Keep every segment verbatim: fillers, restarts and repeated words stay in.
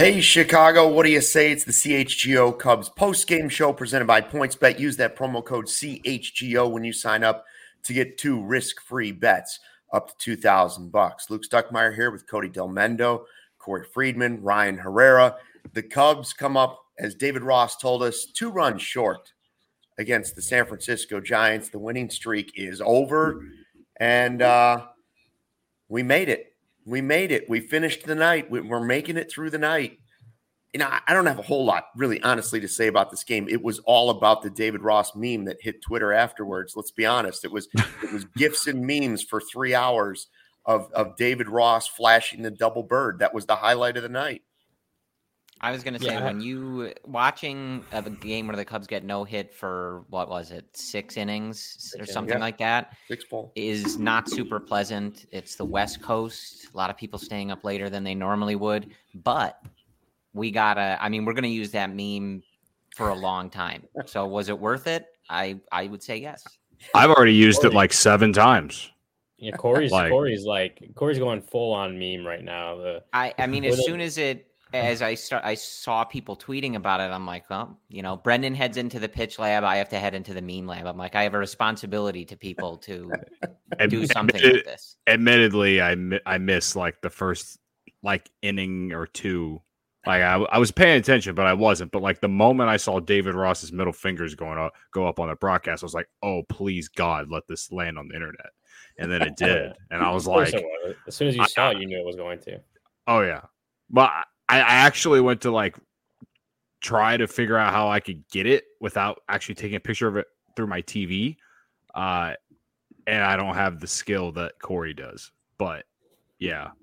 Hey, Chicago, what do you say? It's the C H G O Cubs post-game show presented by PointsBet. Use that promo code C H G O when you sign up to get two risk-free bets up to two thousand bucks. Luke Stuckmeyer here with Cody Del Mendo, Corey Friedman, Ryan Herrera. The Cubs come up, as David Ross told us, two runs short against the San Francisco Giants. The winning streak is over, and uh, we made it. We made it. We finished the night. We're making it through the night. You know, I don't have a whole lot, really, honestly, to say about this game. It was all about the David Ross meme that hit Twitter afterwards. Let's be honest. It was it was GIFs and memes for three hours of, of David Ross flashing the double bird. That was the highlight of the night. I was going to say, Yeah. when you watching a game where the Cubs get no hit for, what was it, six innings or something yeah. like that, Six ball. is not super pleasant. It's the West Coast. A lot of people staying up later than they normally would. But we got to, I mean, we're going to use that meme for a long time. So was it worth it? I, I would say yes. I've already used it like seven times. Yeah, Corey's Like- Corey's like Corey's going full on meme right now. The I, I mean, With as it- soon as it, as I start, I saw people tweeting about it. I'm like, well, you know, Brendan heads into the pitch lab. I have to head into the meme lab. I'm like, I have a responsibility to people to do something Admitted- with this. Admittedly, I mi- I missed like the first like inning or two. Like I, I was paying attention, but I wasn't. But like the moment I saw David Ross's middle fingers going up, go up on the broadcast, I was like, "Oh, please God, let this land on the internet." And then it did, and I was Of course like, it was. As soon as you I- saw it, you knew it was going to. "Oh yeah." But I, I actually went to like try to figure out how I could get it without actually taking a picture of it through my T V, uh, and I don't have the skill that Corey does. But yeah,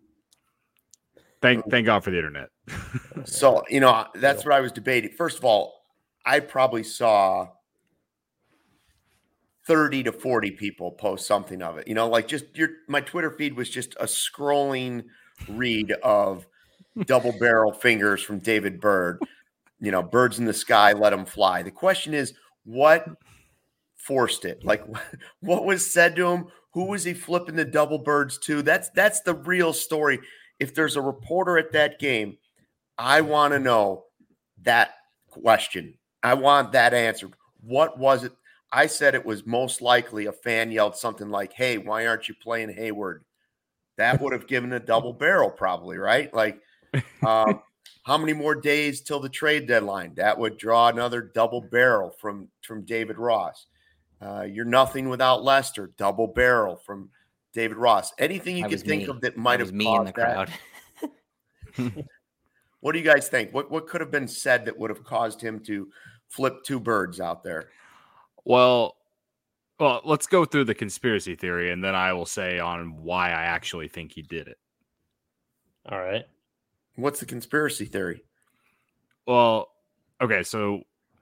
thank thank God for the internet. So, you know, that's what I was debating. First of all, I probably saw thirty to forty people post something of it. You know, like just your my Twitter feed was just a scrolling read of double barrel fingers from David Bird. You know, birds in the sky, let them fly. The question is, what forced it? Like, what was said to him? Who was he flipping the double birds to? That's that's the real story. If there's a reporter at that game, I want to know that question. I want that answered. What was it? I said it was most likely a fan yelled something like, "Hey, why aren't you playing Hayward?" That would have given a double barrel probably, right? Like, um, how many more days till the trade deadline? That would draw another double barrel from, from David Ross. Uh, you're nothing without Lester, double barrel from David Ross. Anything you That could was think me. of that might That have was me in the caused that. crowd. What do you guys think? What what could have been said that would have caused him to flip two birds out there? Well, well, let's go through the conspiracy theory, and then I will say on why I actually think he did it. All right. What's the conspiracy theory? Well, okay, so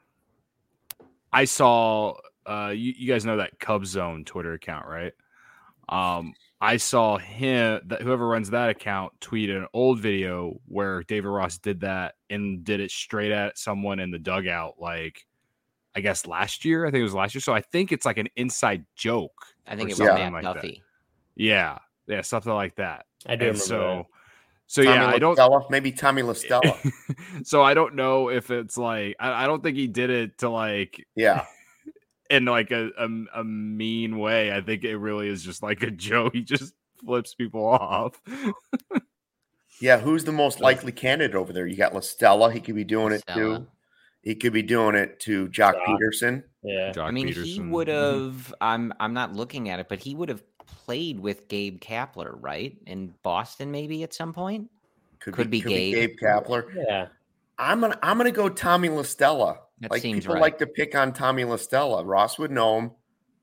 I saw uh you, you guys know that Cub Zone Twitter account, right? Um I saw him that whoever runs that account tweet an old video where David Ross did that and did it straight at someone in the dugout, like I guess last year. I think it was last year. So I think it's like an inside joke. I think or it was something Matt like Duffy. that. Yeah, yeah, something like that. I do And remember so, so Tommy yeah, I don't. LaStella? Maybe Tommy LaStella. So I don't know if it's like I, I don't think he did it to like Yeah. in like a, a a mean way. I think it really is just like a joke. He just flips people off. Yeah. Who's the most likely candidate over there? You got LaStella. He could be doing it Stella. too. He could be doing it to Jock Jock. Peterson. that. Yeah. Jock I mean, he Peterson. would have. I'm. I'm not looking at it, but he would have played with Gabe Kapler, right, in Boston, maybe at some point. Could be could Gabe. Gabe Kapler. Yeah. I'm gonna I'm gonna go Tommy LaStella. That Like seems people right. like to pick on Tommy LaStella. Ross would know him.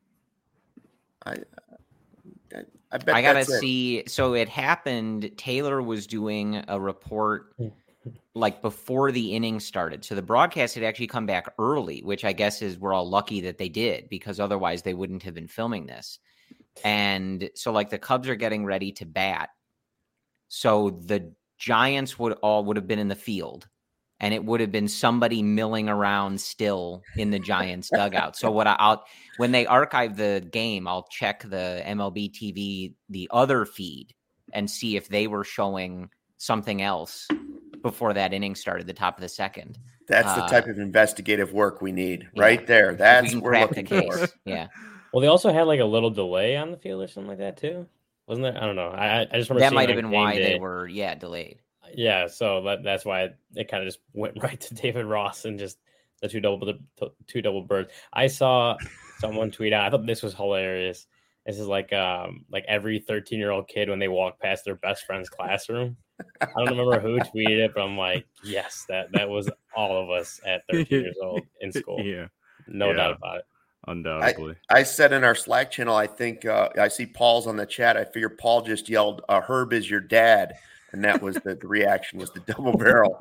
I I, I bet I gotta that's it. see. So it happened. Taylor was doing a report like before the inning started. So the broadcast had actually come back early, which I guess is we're all lucky that they did because otherwise they wouldn't have been filming this. And so like the Cubs are getting ready to bat. So the Giants would all would have been in the field. And it would have been somebody milling around still in the Giants dugout. So what I, I'll when they archive the game, I'll check the M L B T V, the other feed, and see if they were showing something else before that inning started, the top of the second. That's the Uh, type of investigative work we need yeah. right there. If we That's can what we're crack the looking case. for. Yeah. Well, they also had like a little delay on the field or something like that too, wasn't there? I don't know. I I just remember That seeing might have on been game why they day- were, yeah, delayed. Yeah, so that, that's why it, it kind of just went right to David Ross and just the two double the two double birds. I saw someone tweet out. I thought this was hilarious. This is like um like every thirteen year old kid when they walk past their best friend's classroom. I don't remember who tweeted it, but I'm like, yes, that that was all of us at thirteen years old in school. Yeah, No Yeah. doubt about it. undoubtedly. I said in our Slack channel, I think uh, I see Paul's on the chat. I figure Paul just yelled, uh, "Herb is your dad," and that was the, the reaction was the double barrel.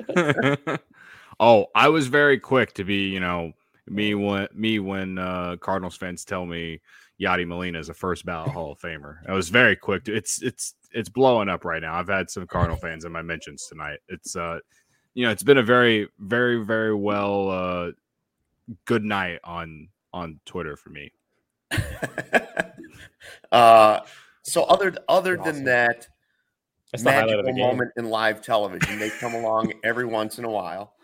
Oh, I was very quick to be, you know, me when me when uh, Cardinals fans tell me Yadi Molina is a first ballot Hall of Famer. I was very quick. To, it's it's it's blowing up right now. I've had some Cardinal fans in my mentions tonight. It's uh, you know, it's been a very very very well uh, good night on on Twitter for me. uh, so other other Awesome. than that That's the highlight of magical the game. moment in live television, they come along every once in a while.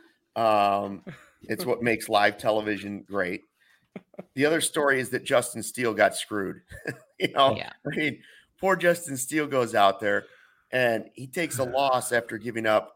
Um, it's what makes live television great. The other story is that Justin Steele got screwed. you know, Yeah. I mean, poor Justin Steele goes out there and he takes a loss after giving up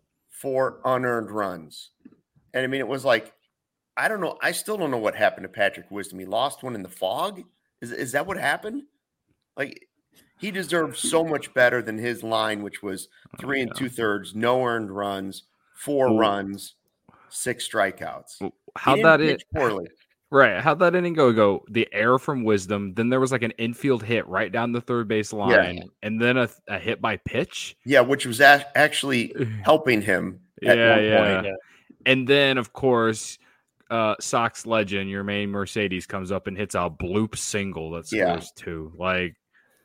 four unearned runs. And I mean, it was like, I don't know. I still don't know what happened to Patrick Wisdom. He lost one in the fog. Is, is that what happened? Like, he deserved so much better than his line, which was three and two thirds, no earned runs, four Ooh. runs, six strikeouts. He How'd didn't that pitch it? poorly. Right. How'd that inning go? Go the error from Wisdom. Then there was like an infield hit right down the third base line, and then a, a hit by pitch. Yeah, which was a- actually helping him at yeah, one yeah. point. Yeah. And then, of course, uh, Sox legend, your main Mercedes, comes up and hits a bloop single that scores Yeah. two. Like,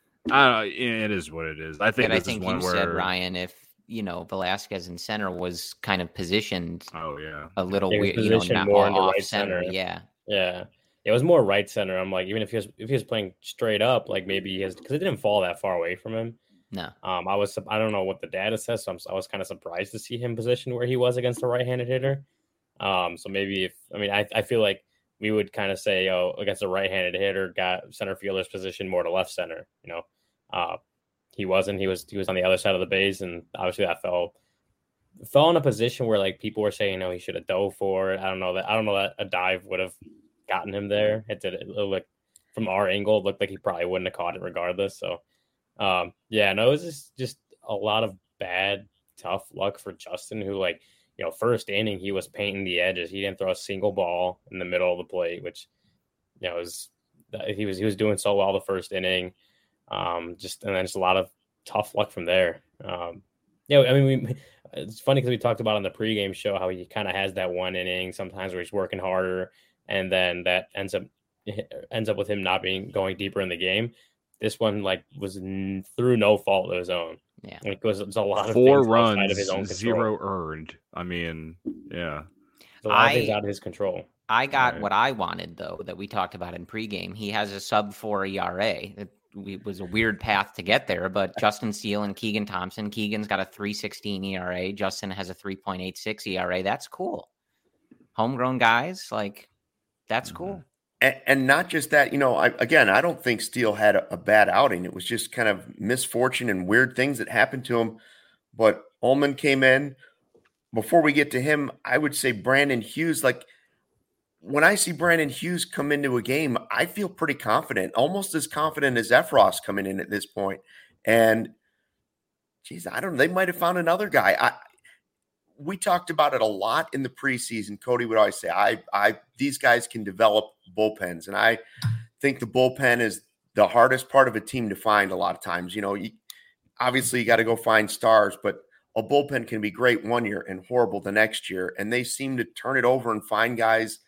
I don't know. It is what it is. I think But I this think is one you where. said, Ryan, if, you know, Velasquez in center was kind of positioned Oh yeah. a little Yeah, he was weird, you know, positioned not more more into off right center. center. Yeah. Yeah. It was more right center. I'm like, even if he was if he was playing straight up, like maybe he has because it didn't fall that far away from him. No. Um, I was I don't know what the data says, so I'm, I was kind of surprised to see him positioned where he was against a right-handed hitter. Um, so maybe if I mean I, I feel like we would kind of say, oh, against a right-handed hitter, got center fielder's position more to left center. You know, uh, he wasn't. He was he was on the other side of the base, and obviously that fell fell in a position where like people were saying, no, he should have dove for it. I don't know that I don't know that a dive would have gotten him there. It did it looked like from our angle, it looked like he probably wouldn't have caught it regardless. So um, yeah, no, it was just just a lot of bad, tough luck for Justin, who like. You know, first inning, he was painting the edges. He didn't throw a single ball in the middle of the plate, which, you know, was he was he was doing so well the first inning. Um, just and then just a lot of tough luck from there. Um, yeah, I mean, we, it's funny because we talked about on the pregame show how he kind of has that one inning sometimes where he's working harder, and then that ends up ends up with him not being going deeper in the game. This one like was n- through no fault of his own. Yeah. Like, it was, it was a lot of Four things outside runs, of his own control. zero earned. I mean, yeah. There's a lot of I- things out of his control. I got Right. what I wanted, though, that we talked about in pregame. He has a sub four E R A. It, it was a weird path to get there, but Justin Steele and Keegan Thompson. Keegan's got a three sixteen E R A. Justin has a three point eight six E R A. That's cool. Homegrown guys, like, that's Mhm. cool. And, and not just that, you know, I, again, I don't think Steele had a, a bad outing. It was just kind of misfortune and weird things that happened to him. But Ullman came in. Before we get to him, I would say Brandon Hughes. Like, when I see Brandon Hughes come into a game, I feel pretty confident, almost as confident as Efros coming in at this point. And, geez, I don't know. They might have found another guy. I, we talked about it a lot in the preseason. Cody would always say, I, I, these guys can develop bullpens. And I think the bullpen is the hardest part of a team to find a lot of times. You know, you, obviously you got to go find stars, but a bullpen can be great one year and horrible the next year. And they seem to turn it over and find guys.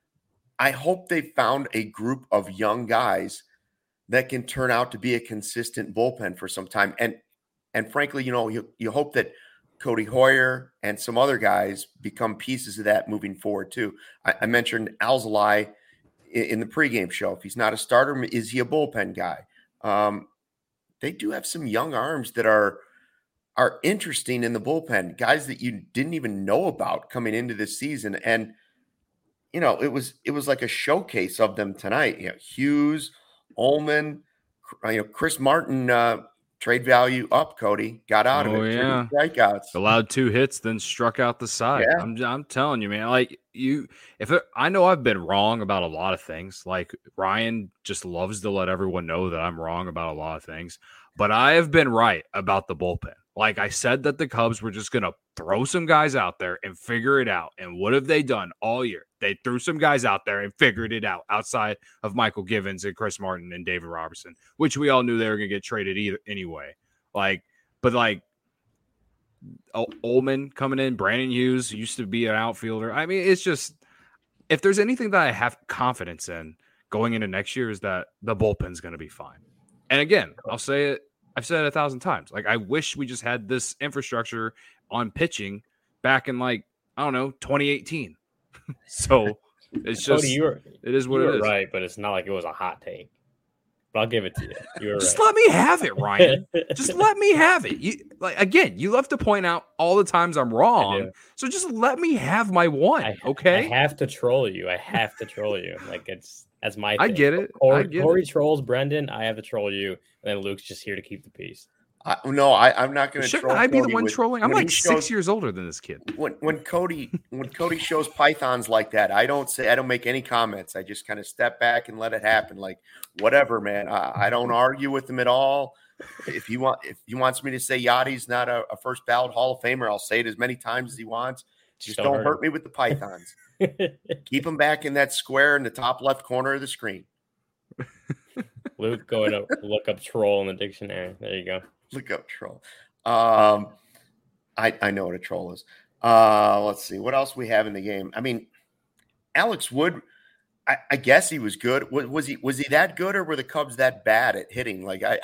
I hope they found a group of young guys that can turn out to be a consistent bullpen for some time. And, and frankly, you know, you, you hope that Cody Hoyer and some other guys become pieces of that moving forward too. I, I mentioned Alzolay in, in the pregame show. If he's not a starter, is he a bullpen guy? Um, they do have some young arms that are are interesting in the bullpen, guys that you didn't even know about coming into this season. And, you know, it was it was like a showcase of them tonight. You know, Hughes, Ullman, you know, Chris Martin, uh, trade value up, Cody. Got out Oh, of it. yeah. Three strikeouts. Allowed two hits, then struck out the side. Yeah. I'm I'm telling you, man. Like you, if it, I know I've been wrong about a lot of things. Like Ryan just loves to let everyone know that I'm wrong about a lot of things, but I have been right about the bullpen. Like I said that the Cubs were just gonna throw some guys out there and figure it out. And what have they done all year? They threw some guys out there and figured it out outside of Michael Givens and Chris Martin and David Robertson, which we all knew they were gonna get traded either anyway. Like, but like. Ullman coming in, Brandon Hughes used to be an outfielder. I mean, it's just if there's anything that I have confidence in going into next year is that the bullpen's going to be fine. And again, I'll say it. I've said it a thousand times. Like I wish we just had this infrastructure on pitching back in like I don't know twenty eighteen. So it's just Cody, you were, it is what you it were is. Right, but it's not like it was a hot take. But I'll give it to you. You were Just right. let me have it, Ryan. Just let me have it. You like again, you love to point out all the times I'm wrong. So just let me have my one. I, okay. I have to troll you. I have to troll you. Like it's that's my thing. I get it. Corey, I get Corey it. trolls Brendan. I have to troll you. And then Luke's just here to keep the peace. I, no, I, I'm not going to. Shouldn't I be the one with, trolling? I'm like shows, six years older than this kid. When when Cody when Cody shows pythons like that, I don't say I don't make any comments. I just kind of step back and let it happen. Like whatever, man. I, I don't argue with him at all. If he want, if he wants me to say Yachty's not a, a first ballot Hall of Famer, I'll say it as many times as he wants. Just don't, don't hurt me with the pythons. Keep him back in that square in the top left corner of the screen. Luke, going to look up troll in the dictionary. There you go. Look up troll. Um, I, I know what a troll is. Uh, let's see. What else we have in the game? I mean, Alex Wood, I, I guess he was good. Was, was he was he that good or were the Cubs that bad at hitting? Like I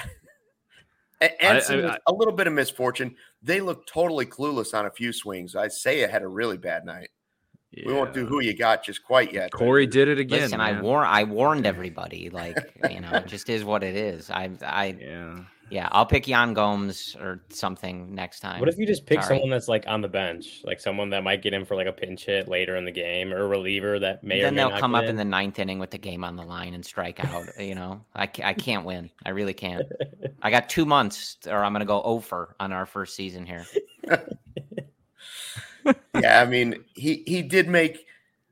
and I, I, a little bit of misfortune. They looked totally clueless on a few swings. I say it had a really bad night. Yeah. We won't do who you got just quite yet. Corey did it again. Listen, man. I war I warned everybody. Like, you know, it just is what it is. I I yeah. Yeah, I'll pick Yan Gomes or something next time. What if you just pick Sorry. someone that's like on the bench, like someone that might get in for like a pinch hit later in the game, or a reliever that may then or may they'll not come up in. in the ninth inning with the game on the line and strike out. You know, I, I can't win. I really can't. I got two months, or I'm going to go over on our first season here. Yeah, I mean, he he did make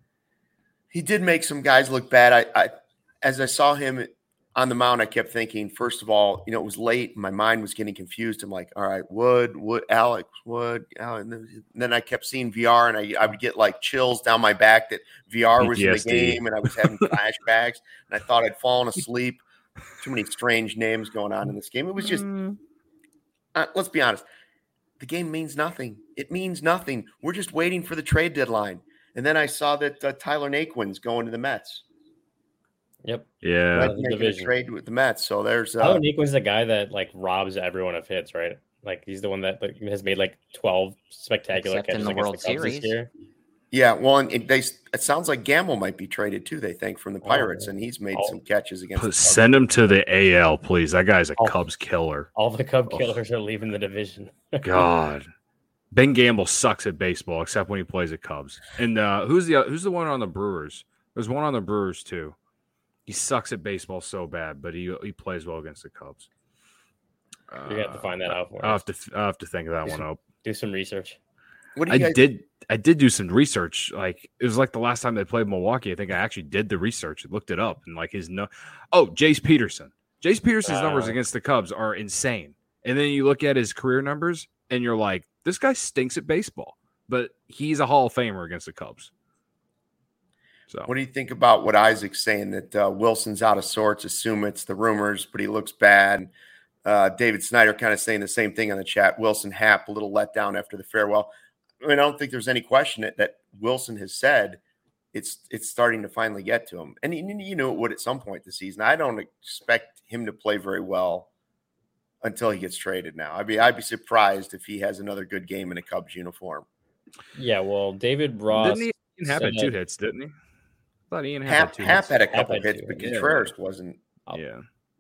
he did make some guys look bad. I, I as I saw him on the mound, I kept thinking, first of all, you know, it was late. My mind was getting confused. I'm like, all right, Wood, Wood, Alex, Wood. And then, and then I kept seeing V R, and I, I would get like chills down my back that V R was P T S D. In the game, and I was having flashbacks, and I thought I'd fallen asleep. Too many strange names going on in this game. It was just, mm. uh, let's be honest, the game means nothing. It means nothing. We're just waiting for the trade deadline. And then I saw that uh, Tyler Naquin's going to the Mets. Yep. Yeah. Making a trade with the Mets. So there's uh, Tyler Naquin's the guy that like robs everyone of hits, right? Like he's the one that like, has made like twelve spectacular Except catches in the against World the Cubs Series. This year. Yeah, well, and it, they it sounds like Gamble might be traded too. They think from the Pirates, oh, and he's made oh. some catches against. Put, send him to the A L, please. That guy's a all, Cubs killer. All the Cub oh. killers are leaving the division. God, Ben Gamble sucks at baseball except when he plays at Cubs. And uh, who's the who's the one on the Brewers? There's one on the Brewers too. He sucks at baseball so bad, but he he plays well against the Cubs. You're gonna have to find that out for I'll us. have to I'll have to think of that do one some, up. Do some research. What do you I guys- did I did do some research. Like it was like the last time they played Milwaukee. I think I actually did the research and looked it up. And like his no, oh Jace Peterson. Jace Peterson's uh, numbers against the Cubs are insane. And then you look at his career numbers, and you're like, this guy stinks at baseball, but he's a Hall of Famer against the Cubs. So, what do you think about what Isaac's saying that uh, Wilson's out of sorts? Assume it's the rumors, but he looks bad. Uh, David Snyder kind of saying the same thing on the chat. Wilson Happ a little let down after the farewell. I mean, I don't think there's any question that, that Wilson has said it's it's starting to finally get to him, and you know it would at some point this season. I don't expect him to play very well until he gets traded. Now, I'd be I'd be surprised if he has another good game in a Cubs uniform. Yeah, well, David Ross didn't he Happ had two hits, didn't he? I thought Ian Happ Happ, had two Happ hits. had a couple Happ had hits, two. but Yeah. Contreras wasn't. I'll, Yeah.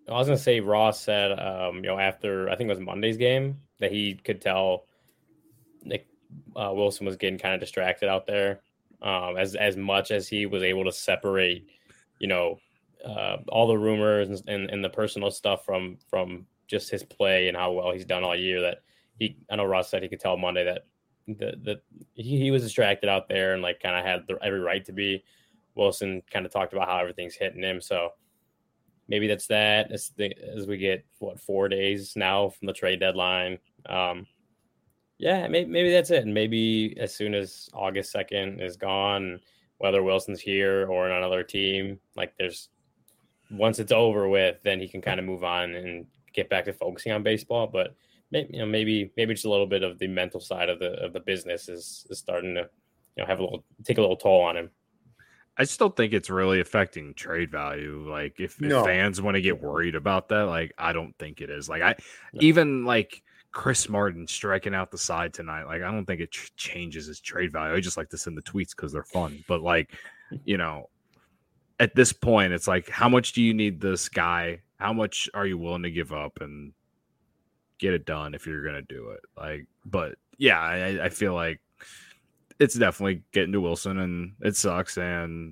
I was gonna say Ross said, um, you know, after I think it was Monday's game that he could tell Nick uh, Wilson was getting kind of distracted out there, um, as as much as he was able to separate, you know, uh, all the rumors and, and and the personal stuff from from just his play and how well he's done all year. That he, I know Ross said he could tell Monday that that that he, he was distracted out there and like kind of had the, every right to be. Wilson kind of talked about how everything's hitting him, so. Maybe that's that as, the, as we get, what, four days now from the trade deadline. Um, yeah, maybe, maybe that's it. And maybe as soon as August second is gone, whether Wilson's here or on another team, like there's once it's over with, then he can kind of move on and get back to focusing on baseball. But maybe, you know, maybe maybe just a little bit of the mental side of the of the business is, is starting to, you know, have a little take a little toll on him. I still think it's really affecting trade value. Like if, No. if fans want to get worried about that, like I don't think it is. Like I No. even like Chris Martin striking out the side tonight. Like I don't think it ch- changes his trade value. I just like to send the tweets because they're fun. But like, you know, at this point, it's like, how much do you need this guy? How much are you willing to give up and get it done if you're gonna do it? Like, but yeah, I, I feel like. It's definitely getting to Wilson, and it sucks. And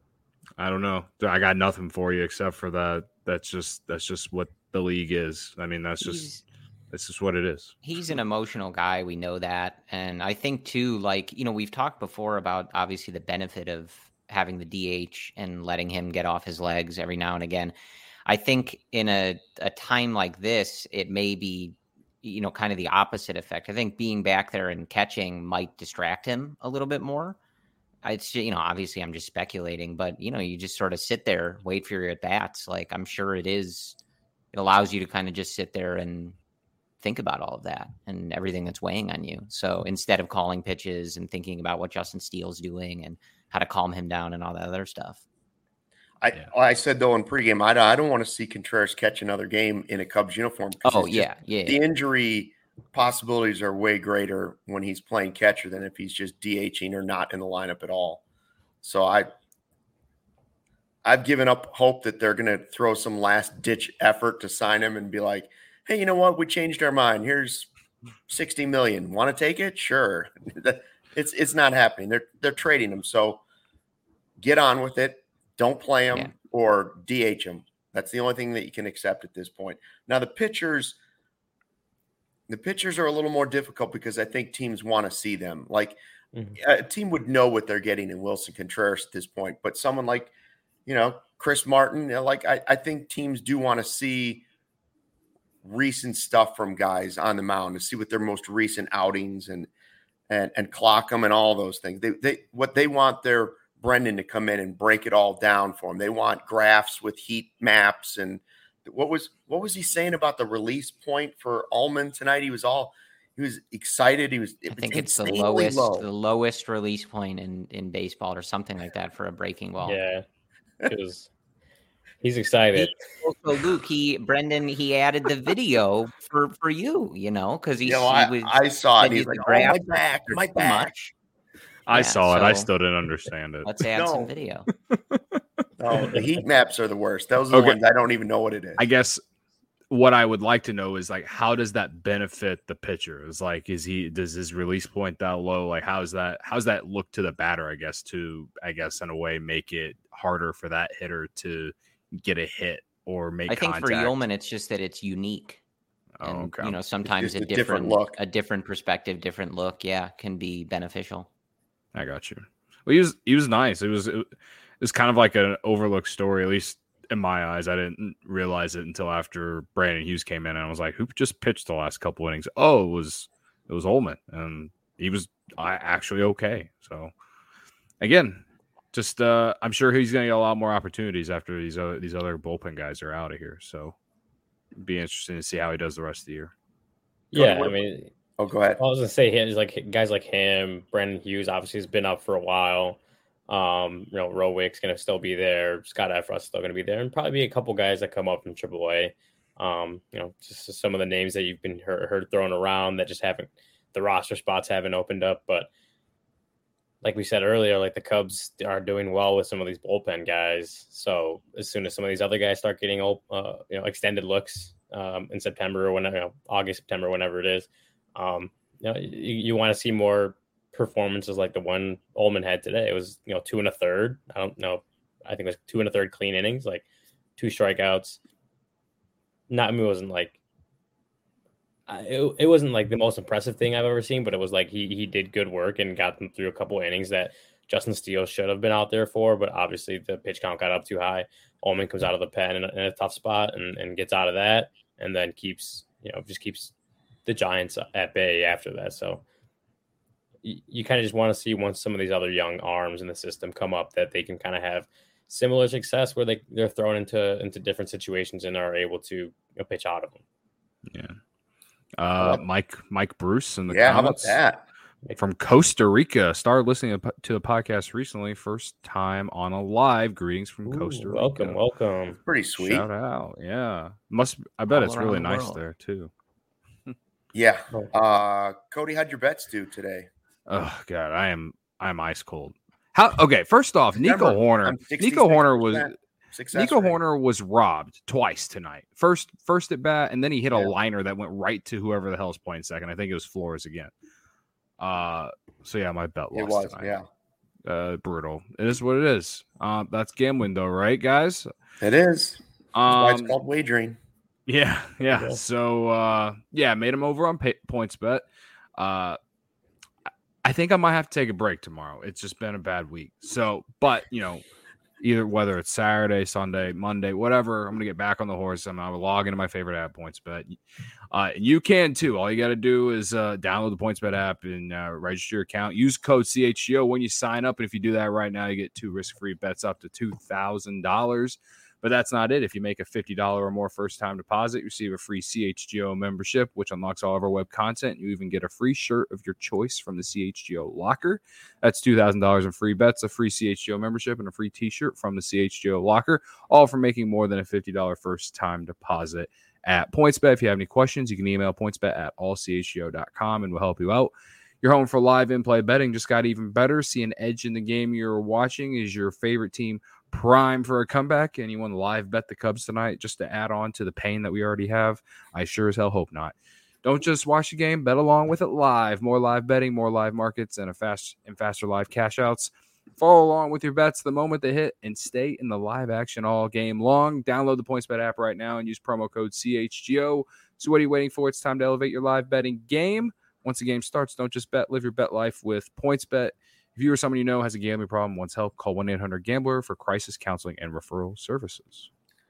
I don't know. I got nothing for you except for that. That's just that's just what the league is. I mean, that's just He's, that's just what it is. he's an emotional guy. We know that, and I think too. Like you know, we've talked before about obviously the benefit of having the D H and letting him get off his legs every now and again. I think in a a time like this, it may be. You know, kind of the opposite effect. I think being back there and catching might distract him a little bit more. It's, you know, obviously I'm just speculating, but, you know, you just sort of sit there, wait for your at-bats. Like, I'm sure it is, it allows you to kind of just sit there and think about all of that and everything that's weighing on you. So instead of calling pitches and thinking about what Justin Steele's doing and how to calm him down and all that other stuff. I, Yeah. I said, though, in pregame, I, I don't want to see Contreras catch another game in a Cubs uniform. Oh, yeah, yeah. The injury possibilities are way greater when he's playing catcher than if he's just DHing or not in the lineup at all. So I, I've given up hope that they're going to throw some last-ditch effort to sign him and be like, hey, you know what? We changed our mind. Here's sixty million dollars. Want to take it? Sure. it's it's not happening. They're they're trading him. So get on with it. Don't play him Yeah. or D H him. That's the only thing that you can accept at this point. Now the pitchers, the pitchers are a little more difficult because I think teams want to see them. Like Mhm. a team would know what they're getting in Wilson Contreras at this point, but someone like, you know, Chris Martin, you know, like I, I think teams do want to see recent stuff from guys on the mound to see what their most recent outings and and and clock them and all those things. They they what they want their Brendan to come in and break it all down for them. They want graphs with heat maps and what was what was he saying about the release point for Allman tonight? He was all he was excited. He was. It I think was it's the insanely lowest, low. the lowest release point in, in baseball or something like that for a breaking ball. Yeah, because he's excited. He, also, Luke, he Brendan, he added the video for, for you, you know, because he, You know, he I, was. I saw it. And said he's the like, "Oh, graph my back, was my too back." much. I Yeah, saw it. I so still didn't understand it. Let's add No. some video. Oh, the heat maps are the worst. Those are the Okay. ones I don't even know what it is. I guess what I would like to know is like, how does that benefit the pitcher? Is like, is he does his release point that low? Like, how's that? How's that look to the batter? I guess to I guess in a way make it harder for that hitter to get a hit or make. I think contact. for Yeoman, it's just that it's unique. Oh, And, okay. you know, sometimes just a a different different, look. a different perspective, different look, yeah, can be beneficial. I got you. Well, he was he was nice. It was it was kind of like an overlooked story, at least in my eyes. I didn't realize it until after Brandon Hughes came in, and I was like, "Who just pitched the last couple innings?" Oh, it was it was Ullman, and he was uh, actually okay. So again, just uh, I'm sure he's going to get a lot more opportunities after these other these other bullpen guys are out of here. So it'd be interesting to see how he does the rest of the year. Yeah, I mean, Oh, go ahead. I was gonna say he's like guys like him, Brendan Hughes obviously has been up for a while. Um, you know, Rowick's gonna still be there, Scott Efra's still gonna be there, and probably be a couple guys that come up from triple A. Um, you know, just some of the names that you've been heard, heard thrown around that just haven't the roster spots haven't opened up. But like we said earlier, like the Cubs are doing well with some of these bullpen guys. So as soon as some of these other guys start getting old, uh, you know, extended looks um, in September or whenever, you know, August, September, whenever it is, um, you know, you, you want to see more performances like the one Ullman had today. It was, you know, two and a third. I don't know. I think it was two and a third clean innings, like two strikeouts. Not, I mean, it wasn't like, It, it wasn't like the most impressive thing I've ever seen, but it was like he he did good work and got them through a couple of innings that Justin Steele should have been out there for. But obviously the pitch count got up too high. Ullman comes out of the pen in a, in a tough spot and, and gets out of that, and then keeps you know just keeps the Giants at bay after that. So you, you kind of just want to see once some of these other young arms in the system come up that they can kind of have similar success where they they're thrown into into different situations and are able to you know, pitch out of them. Yeah. Uh, Mike Mike Bruce in the yeah, comments. How about that? From Costa Rica. Started listening to the podcast recently. First time on a live. Greetings from Ooh, Costa Rica. Welcome, welcome. Pretty sweet. Shout out. Yeah. Must I bet All it's really around the nice world. there too. Yeah. Uh, Cody, how'd your bets do today? Oh God, I am I'm ice cold. How okay, first off, Nico Remember, Horner. I'm Nico Horner was success Nico rate. Horner was robbed twice tonight. First, first at bat, and then he hit a Yeah. liner that went right to whoever the hell's playing second. I think it was Flores again. Uh, so yeah, my bet It lost was, tonight. yeah. Uh, brutal. It is what it is. Uh, that's gambling, though, right, guys? It is. That's why it's Um, called wagering. yeah, yeah. Yeah. So uh, yeah, made him over on pay- points bet. Uh, I think I might have to take a break tomorrow. It's just been a bad week. So, but you know. Either whether it's Saturday, Sunday, Monday, whatever, I'm gonna get back on the horse. I'm gonna log into my favorite app, PointsBet. Uh, you can too. All you got to do is uh, download the PointsBet app and uh, register your account. Use code C H G O when you sign up, and if you do that right now, you get two risk-free bets up to two thousand dollars. But that's not it. If you make a fifty dollars or more first-time deposit, you receive a free C H G O membership, which unlocks all of our web content. You even get a free shirt of your choice from the C H G O locker. That's two thousand dollars in free bets, a free C H G O membership, and a free t-shirt from the C H G O locker, all for making more than a fifty dollars first-time deposit at PointsBet. If you have any questions, you can email pointsbet at all c h g o dot com, and we'll help you out. Your home for live in-play betting just got even better. See an edge in the game you're watching. Is your favorite team prime for a comeback? Anyone live bet the Cubs tonight just to add on to the pain that we already have? I sure as hell hope not. Don't just watch the game, bet along with it live. More live betting, more live markets, and a fast and faster live cash outs. Follow along with your bets the moment they hit and stay in the live action all game long. Download the PointsBet app right now and use promo code C H G O. So what are you waiting for? It's time to elevate your live betting game. Once the game starts, don't just bet, live your bet life with PointsBet. If you or someone you know has a gambling problem, wants help, call one eight hundred gambler for crisis counseling and referral services.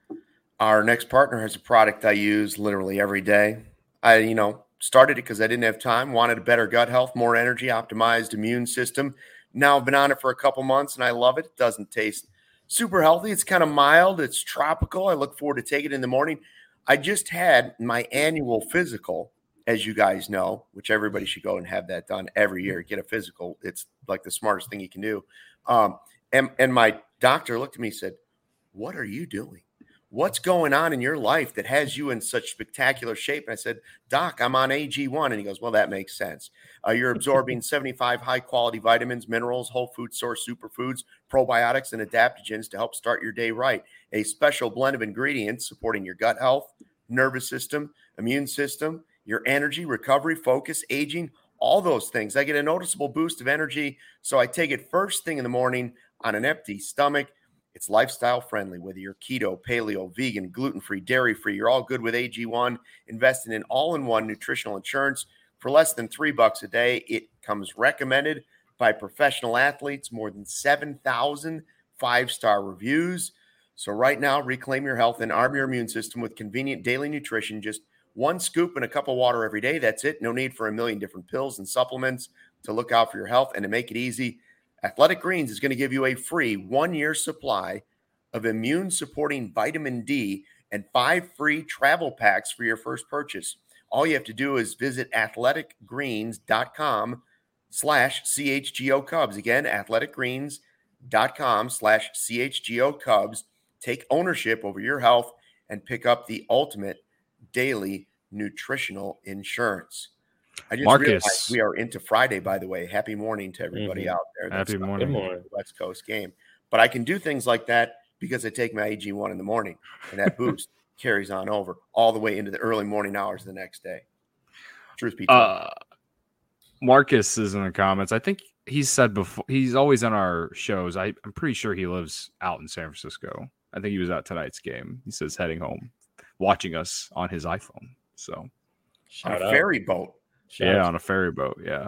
Our next partner has a product I use literally every day. I, you know, started it because I didn't have time, wanted a better gut health, more energy, optimized immune system. Now I've been on it for a couple months and I love it. It doesn't taste super healthy. It's kind of mild. It's tropical. I look forward to taking it in the morning. I just had my annual physical, as you guys know, which everybody should go and have that done every year. Get a physical. It's like the smartest thing you can do. Um, and, and my doctor looked at me and said, "What are you doing? What's going on in your life that has you in such spectacular shape?" And I said, "Doc, I'm on A G one. And he goes, "Well, that makes sense. Uh, you're absorbing seventy-five high-quality vitamins, minerals, whole food source superfoods, probiotics, and adaptogens to help start your day right. A special blend of ingredients supporting your gut health, nervous system, immune system, your energy, recovery, focus, aging, all those things. I get a noticeable boost of energy, so I take it first thing in the morning on an empty stomach. It's lifestyle friendly, whether you're keto, paleo, vegan, gluten-free, dairy-free, you're all good with A G one. Investing in all-in-one nutritional insurance for less than three bucks a day. It comes recommended by professional athletes, more than seven thousand five-star reviews. So right now, reclaim your health and arm your immune system with convenient daily nutrition. Just one scoop and a cup of water every day. That's it. No need for a million different pills and supplements to look out for your health. And to make it easy, Athletic Greens is going to give you a free one-year supply of immune-supporting vitamin D and five free travel packs for your first purchase. All you have to do is visit athleticgreens.com slash CHGO Cubs. Again, athleticgreens.com slash CHGO Cubs. Take ownership over your health and pick up the ultimate daily nutritional insurance. I just Marcus. realized we are into Friday, by the way. Happy morning to everybody Mhm. out there. Happy That's morning. Good morning. West Coast game. But I can do things like that because I take my A G one in the morning, and that boost carries on over all the way into the early morning hours the next day. Truth be told. Uh, Marcus is in the comments. I think he's said before. He's always on our shows. I, I'm pretty sure he lives out in San Francisco. I think he was at tonight's game. He says heading home, watching us on his iPhone. So on Shout a out. ferry boat. Shout yeah, out. on a ferry boat. Yeah.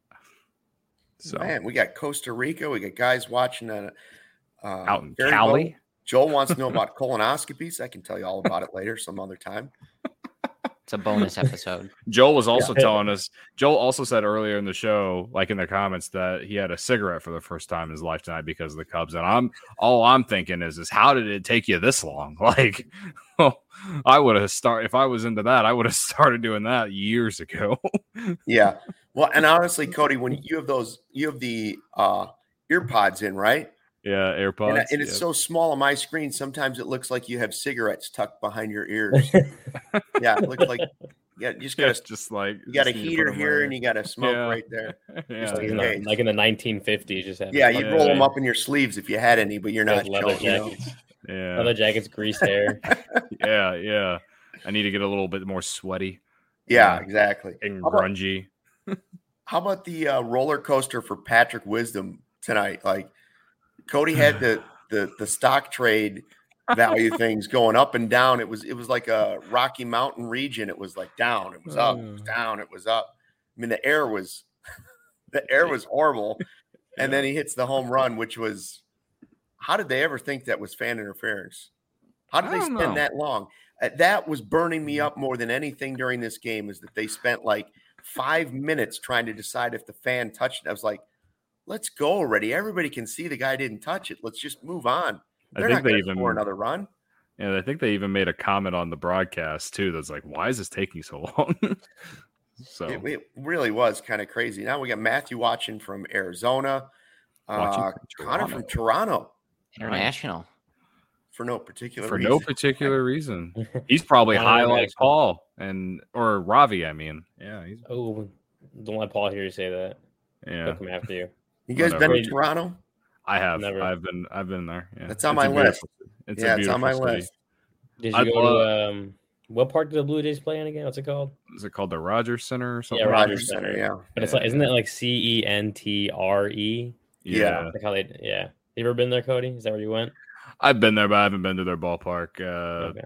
So Man, we got Costa Rica. We got guys watching on a uh, out in ferry Cali. boat. Joel wants to know about colonoscopies. I can tell you all about it later, some other time. It's a bonus episode. Joel was also Yeah. telling us. Joel also said earlier in the show, like in the comments, that he had a cigarette for the first time in his life tonight because of the Cubs. And I'm all I'm thinking is, is how did it take you this long? Like, well, I would have started if I was into that. I would have started doing that years ago. Yeah. Well, and honestly, Cody, when you have those, you have the uh, ear pods in, right? Yeah, AirPods. And, and it's yeah. so small on my screen. Sometimes it looks like you have cigarettes tucked behind your ears. Yeah, it looks like yeah. You just got It's a just like you got a just need to heater put 'em here, right and you got a smoke Yeah. right there. Yeah, just like, in in case. the, like in the nineteen fifties, just have Yeah, you'd fucking roll them thing. up in your sleeves if you had any, but you're not Those leather showing. You know? jackets, yeah, leather jackets, greased hair. yeah, yeah. I need to get a little bit more sweaty Yeah, Yeah. exactly. and How about- grungy. How about the uh, roller coaster for Patrick Wisdom tonight? Like Cody had the the the stock trade value things going up and down. It was it was like a Rocky Mountain region. It was like down. It was up. It was down. It was up. I mean, the air was the air was horrible. And then he hits the home run, which was how did they ever think that was fan interference? How did I they don't spend know. that long? Uh, that was burning me up more than anything during this game. Is that they spent like five minutes trying to decide if the fan touched it. I was like, let's go already. Everybody can see the guy didn't touch it. Let's just move on. I They're think not they going to even score another run. Yeah, I think they even made a comment on the broadcast too. That's like, why is this taking so long? so It, it really was kind of crazy. Now we got Matthew watching from Arizona, Watching uh, from Connor Toronto. from Toronto International. for no particular for reason. no particular reason, he's probably Connor high like Jackson. Paul and or Ravi. I mean, yeah, he's Oh, don't let Paul hear you say that. yeah. He'll come after you. You guys Whatever. been to Toronto? I have. Never. I've been. I've been there. Yeah. That's on It's my a beautiful list. city. It's yeah, a it's on beautiful my city. list. Did you I'd go love- to um, what park did the Blue Jays play in again? What's it called? Is it called the Rogers Center or something? Yeah, Rogers Rogers Center, Center. yeah. But it's Yeah. like, isn't that like C E N T R E? Yeah. Like how they, yeah. You ever been there, Cody? Is that where you went? I've been there, but I haven't been to their ballpark. Uh, Okay.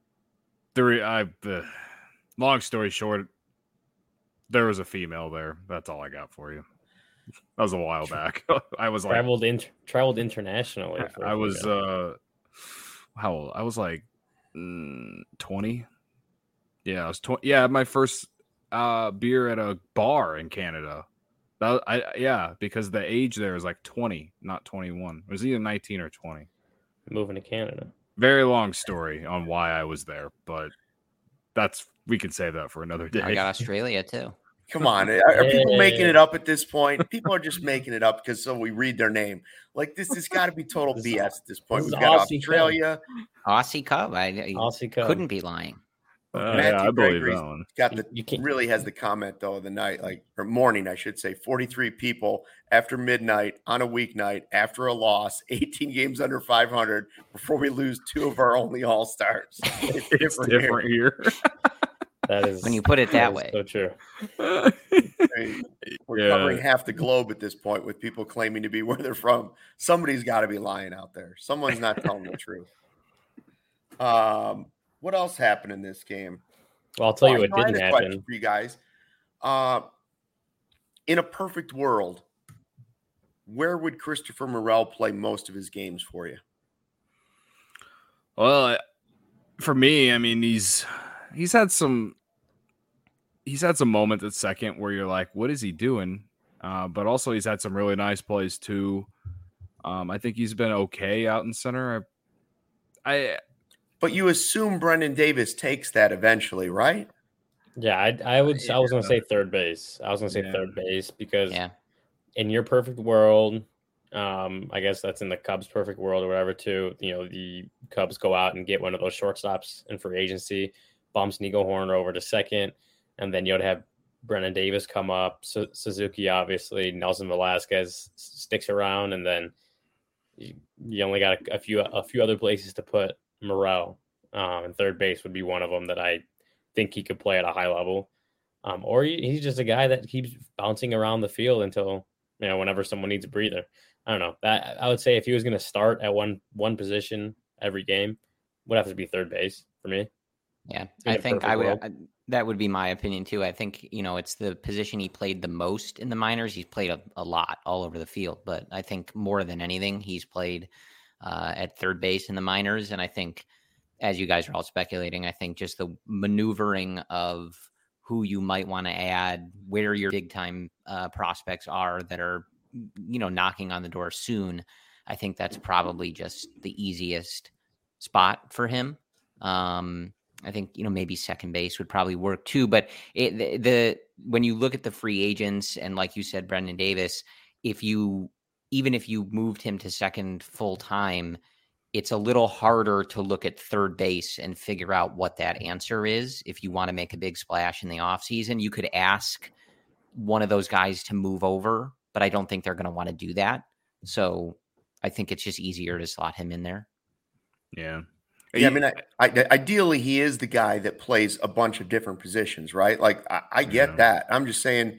the re- I, uh, long story short, there was a female there. That's all I got for you. That was a while back. I was like, Traveled in, traveled internationally. for- I for was, that. uh, how old? I was like mm, twenty. Yeah, I was twenty. Yeah, my first uh, beer at a bar in Canada. That, I yeah, because the age there is like twenty, not twenty-one. It was either nineteen or twenty. moving to Canada. Very long story on why I was there, but that's we can save that for another day. I got Australia too. Come on. Are, are people making Yeah. it up at this point? People are just making it up because so we read their name. Like this has got to be total This B is- S at this point. this We've is got Aussie Australia, Aussie Cub. I, I Aussie Cub. couldn't be lying. Uh, Matthew yeah, I believe Gregory's that one. got You, the you can't. really has the comment though of the night, like or morning, I should say. forty-three people after midnight on a weeknight after a loss, eighteen games under five hundred before we lose two of our only all stars. It's It's different. here. different here. That is When you put it that is way. So true. I mean, we're Yeah. covering half the globe at this point with people claiming to be where they're from. Somebody's got to be lying out there. Someone's not telling the truth. Um, what else happened in this game? Well, I'll tell you Oh, what no, I had didn't a question happen. for you guys. Uh, in a perfect world, where would Christopher Morel play most of his games for you? Well, I- for me, I mean, he's he's had some he's had some moments at second where you're like, what is he doing? Uh, but also he's had some really nice plays too. Um, I think he's been okay out in center. I, I But you assume Brendan Davis takes that eventually, right? Yeah, I, I would. I was gonna Yeah. say third base. I was gonna say Yeah. third base because Yeah. in your perfect world, um, I guess that's in the Cubs' perfect world or whatever. Too, you know, the Cubs go out and get one of those shortstops in free agency, bumps Nico Horner over to second, and then you'd have Brennan Davis come up, Su- Suzuki, obviously, Nelson Velasquez sticks around, and then you, you only got a, a few a few other places to put Morel. Um, and third base would be one of them that I think he could play at a high level. Um, or he, he's just a guy that keeps bouncing around the field until, you know, whenever someone needs a breather. I don't know. That I would say if he was going to start at one one position every game, would have to be third base for me. Yeah, In I a think perfect I would. world. I, that would be my opinion too. I think, you know, it's the position he played the most in the minors. He's played a, a lot all over the field, but I think more than anything, he's played uh, at third base in the minors. And I think, as you guys are all speculating, I think just the maneuvering of who you might want to add, where your big time uh, prospects are that are, you know, knocking on the door soon. I think that's probably just the easiest spot for him. Um, I think, you know, maybe second base would probably work too. But it, the, the when you look at the free agents and, like you said, Brendan Davis, if you even if you moved him to second full time, it's a little harder to look at third base and figure out what that answer is. If you want to make a big splash in the offseason, you could ask one of those guys to move over, but I don't think they're going to want to do that. So I think it's just easier to slot him in there. Yeah. Yeah, I mean, I, I, ideally, he is the guy that plays a bunch of different positions, right? Like, I, I get Yeah. that. I'm just saying,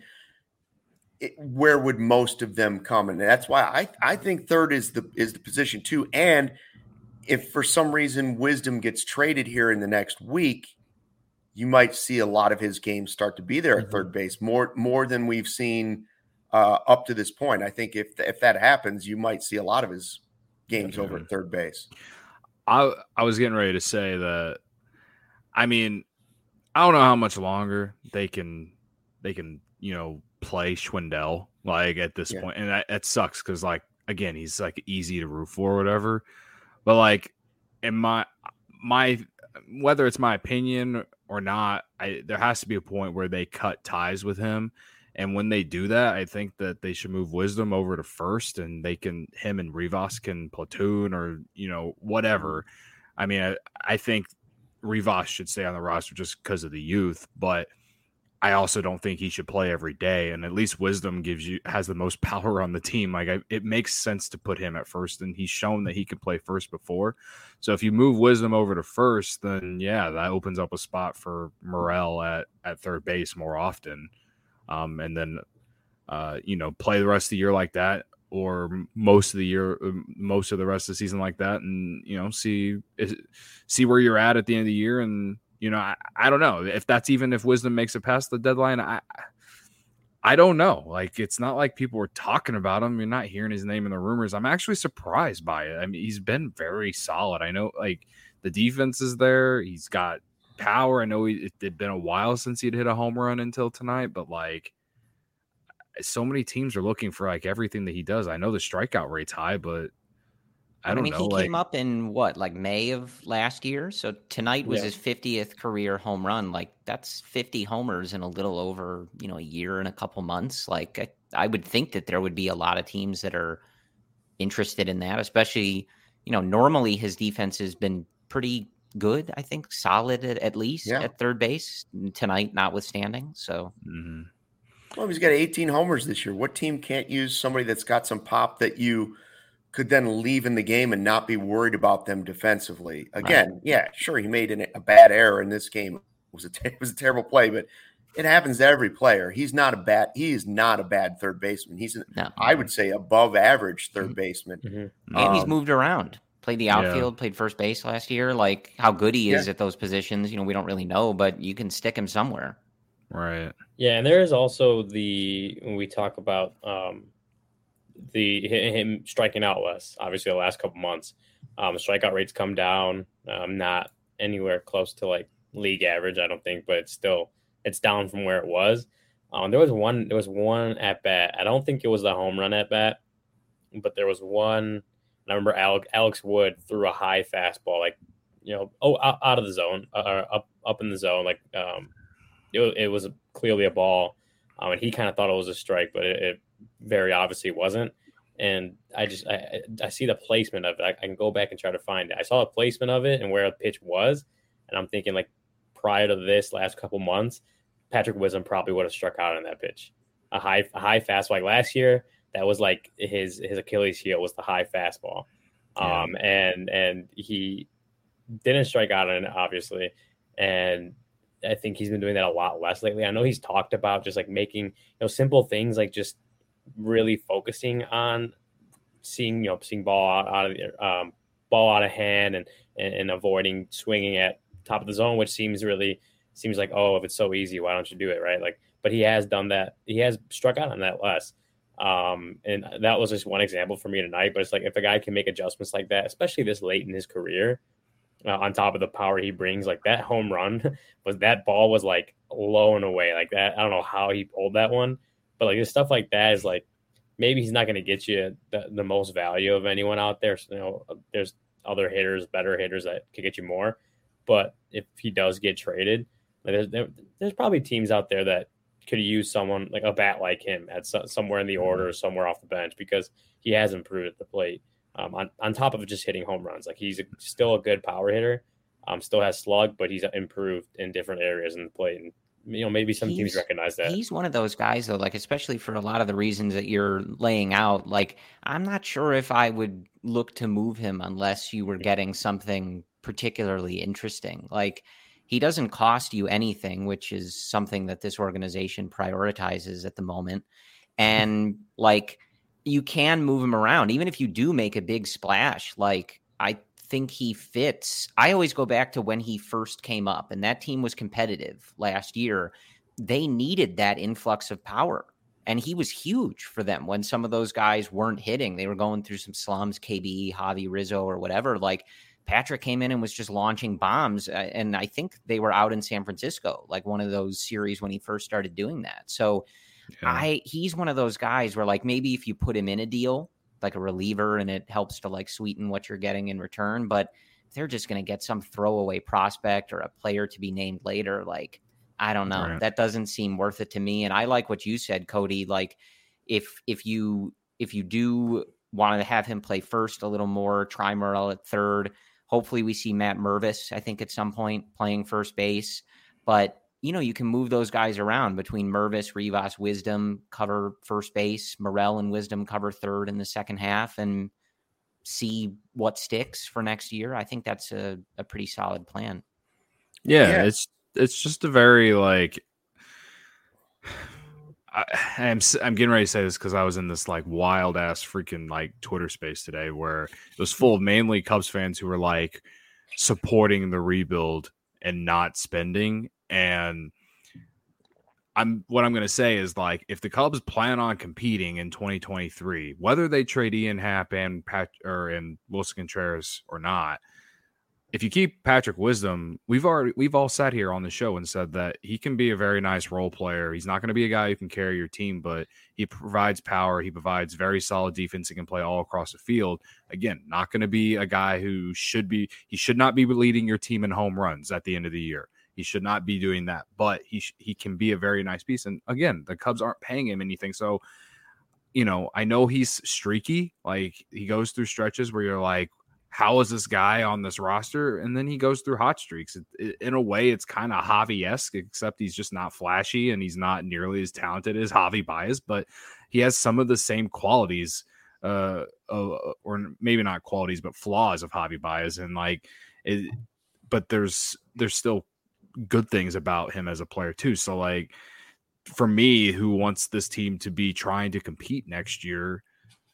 it, where would most of them come? And that's why I, I think third is the is the position too. And if for some reason Wisdom gets traded here in the next week, you might see a lot of his games start to be there at Mhm. third base, more more than we've seen uh, up to this point. I think if if that happens, you might see a lot of his games over at third base. I I was getting ready to say that. I mean, I don't know how much longer they can they can you know play Schwindel like at this Yeah. point, and that, that sucks because like again he's like easy to root for or whatever, but like in my my whether it's my opinion or not, I there has to be a point where they cut ties with him. And when they do that, I think that they should move Wisdom over to first, and they can him and Rivas can platoon or you know whatever. I mean, I, I think Rivas should stay on the roster just because of the youth, but I also don't think he should play every day. And at least Wisdom gives you has the most power on the team. Like I, it makes sense to put him at first, and he's shown that he can play first before. So if you move Wisdom over to first, then yeah, that opens up a spot for Morel at at third base more often. Um, and then, uh, you know, play the rest of the year like that, or most of the year, most of the rest of the season like that, and you know, see see where you're at at the end of the year. And you know, I, I don't know if that's even if Wisdom makes it past the deadline. I I don't know. Like, it's not like people were talking about him. You're not hearing his name in the rumors. I'm actually surprised by it. I mean, he's been very solid. I know, like the defense is there. He's got power. I know he, it had been a while since he'd hit a home run until tonight, but like so many teams are looking for like everything that he does. I know the strikeout rate's high, but I don't I mean, know. he like, came up in what, like May of last year? So tonight was Yeah. his fiftieth career home run. Like that's fifty homers in a little over, you know, a year and a couple months. Like I, I would think that there would be a lot of teams that are interested in that, especially, you know, normally his defense has been pretty good. I think solid at, at least Yeah. at third base tonight, notwithstanding. So mhm. Well, he's got eighteen homers this year. What team can't use somebody that's got some pop that you could then leave in the game and not be worried about them defensively? Again, yeah, sure, he made an, a bad error in this game. It was a it was a terrible play, but it happens to every player. He's not a bad he is not a bad third baseman. He's an, no. I would say above average third baseman. Mhm. And he's Um, moved around. Played the Yeah. outfield, played first base last year. Like how good he is Yeah. at those positions, you know, we don't really know, but you can stick him somewhere. Right. Yeah, and there is also the when we talk about um, the him striking out less. Obviously, the last couple months, um, strikeout rates come down. Um, not anywhere close to like league average, I don't think, but it's still it's down from where it was. Um, there was one there was one at bat. I don't think it was the home run at bat, but there was one. I remember Alex, Alex Wood threw a high fastball, like you know, oh out, out of the zone, uh, up up in the zone, like um. It, it was clearly a ball, um, and he kind of thought it was a strike, but it, it very obviously wasn't. And I just I, I see the placement of it. I, I can go back and try to find it. I saw the placement of it and where the pitch was, and I'm thinking like prior to this last couple months, Patrick Wisdom probably would have struck out on that pitch. A high, a high fastball. Like last year, that was like his his Achilles heel was the high fastball, yeah. um, and and he didn't strike out on it, obviously, and I think he's been doing that a lot less lately. I know he's talked about just like making, you know, simple things like just really focusing on seeing, you know, seeing ball out, out of the, um, ball out of hand and, and and avoiding swinging at top of the zone, which seems really seems like, oh, if it's so easy, why don't you do it, right? Like, but he has done that. He has struck out on that less. Um, and that was just one example for me tonight. But it's like if a guy can make adjustments like that, especially this late in his career, uh, on top of the power he brings, like that home run was that ball was like low and away like that. I don't know how he pulled that one, but like stuff like that is like maybe he's not going to get you the, the most value of anyone out there. So, you know, there's other hitters, better hitters that could get you more. But if he does get traded, like there's, there's probably teams out there that could use someone like a bat like him at so, somewhere in the order or somewhere off the bench because he has improved at the plate. Um, on, on top of just hitting home runs, like he's a, still a good power hitter, um, still has slug, but he's improved in different areas in the plate. And, you know, maybe some he's, teams recognize that. He's one of those guys though, like, especially for a lot of the reasons that you're laying out, like, I'm not sure if I would look to move him unless you were getting something particularly interesting. Like, he doesn't cost you anything, which is something that this organization prioritizes at the moment. And like, you can move him around, even if you do make a big splash. Like, I think he fits. I always go back to when he first came up, and that team was competitive last year. They needed that influx of power, and he was huge for them when some of those guys weren't hitting. They were going through some slums, K B, Javi Rizzo, or whatever. Like, Patrick came in and was just launching bombs, and I think they were out in San Francisco, like one of those series when he first started doing that. So yeah. I he's one of those guys where, like, maybe if you put him in a deal, like a reliever, and it helps to like sweeten what you're getting in return, but they're just going to get some throwaway prospect or a player to be named later. Like, I don't know. Right. That doesn't seem worth it to me. And I like what you said, Cody. Like, if if you if you do want to have him play first a little more, try Morel at third. Hopefully we see Matt Mervis, I think, at some point playing first base. But, you know, you can move those guys around between Mervis, Rivas, Wisdom, cover first base, Morel and Wisdom cover third in the second half, and see what sticks for next year. I think that's a, a pretty solid plan. Yeah, yeah, it's it's just a very, like, I, I'm I'm getting ready to say this because I was in this like wild ass freaking like Twitter space today where it was full of mainly Cubs fans who were like supporting the rebuild and not spending. And I'm what I'm going to say is, like, if the Cubs plan on competing in twenty twenty-three, whether they trade Ian Happ and Pat or and Wilson Contreras or not, if you keep Patrick Wisdom, we've already we've all sat here on the show and said that he can be a very nice role player. He's not going to be a guy who can carry your team, but he provides power. He provides very solid defense. He can play all across the field. Again, not going to be a guy who should be. He should not be leading your team in home runs at the end of the year. He should not be doing that. But he sh- he can be a very nice piece. And again, the Cubs aren't paying him anything, so you know I know he's streaky. Like, he goes through stretches where you're like, how is this guy on this roster? And then he goes through hot streaks. It, it, in a way, it's kind of Javi-esque, except he's just not flashy and he's not nearly as talented as Javi Baez, but he has some of the same qualities, uh, uh, or maybe not qualities, but flaws of Javi Baez. And like, it, but there's there's still good things about him as a player too. So like, for me, who wants this team to be trying to compete next year,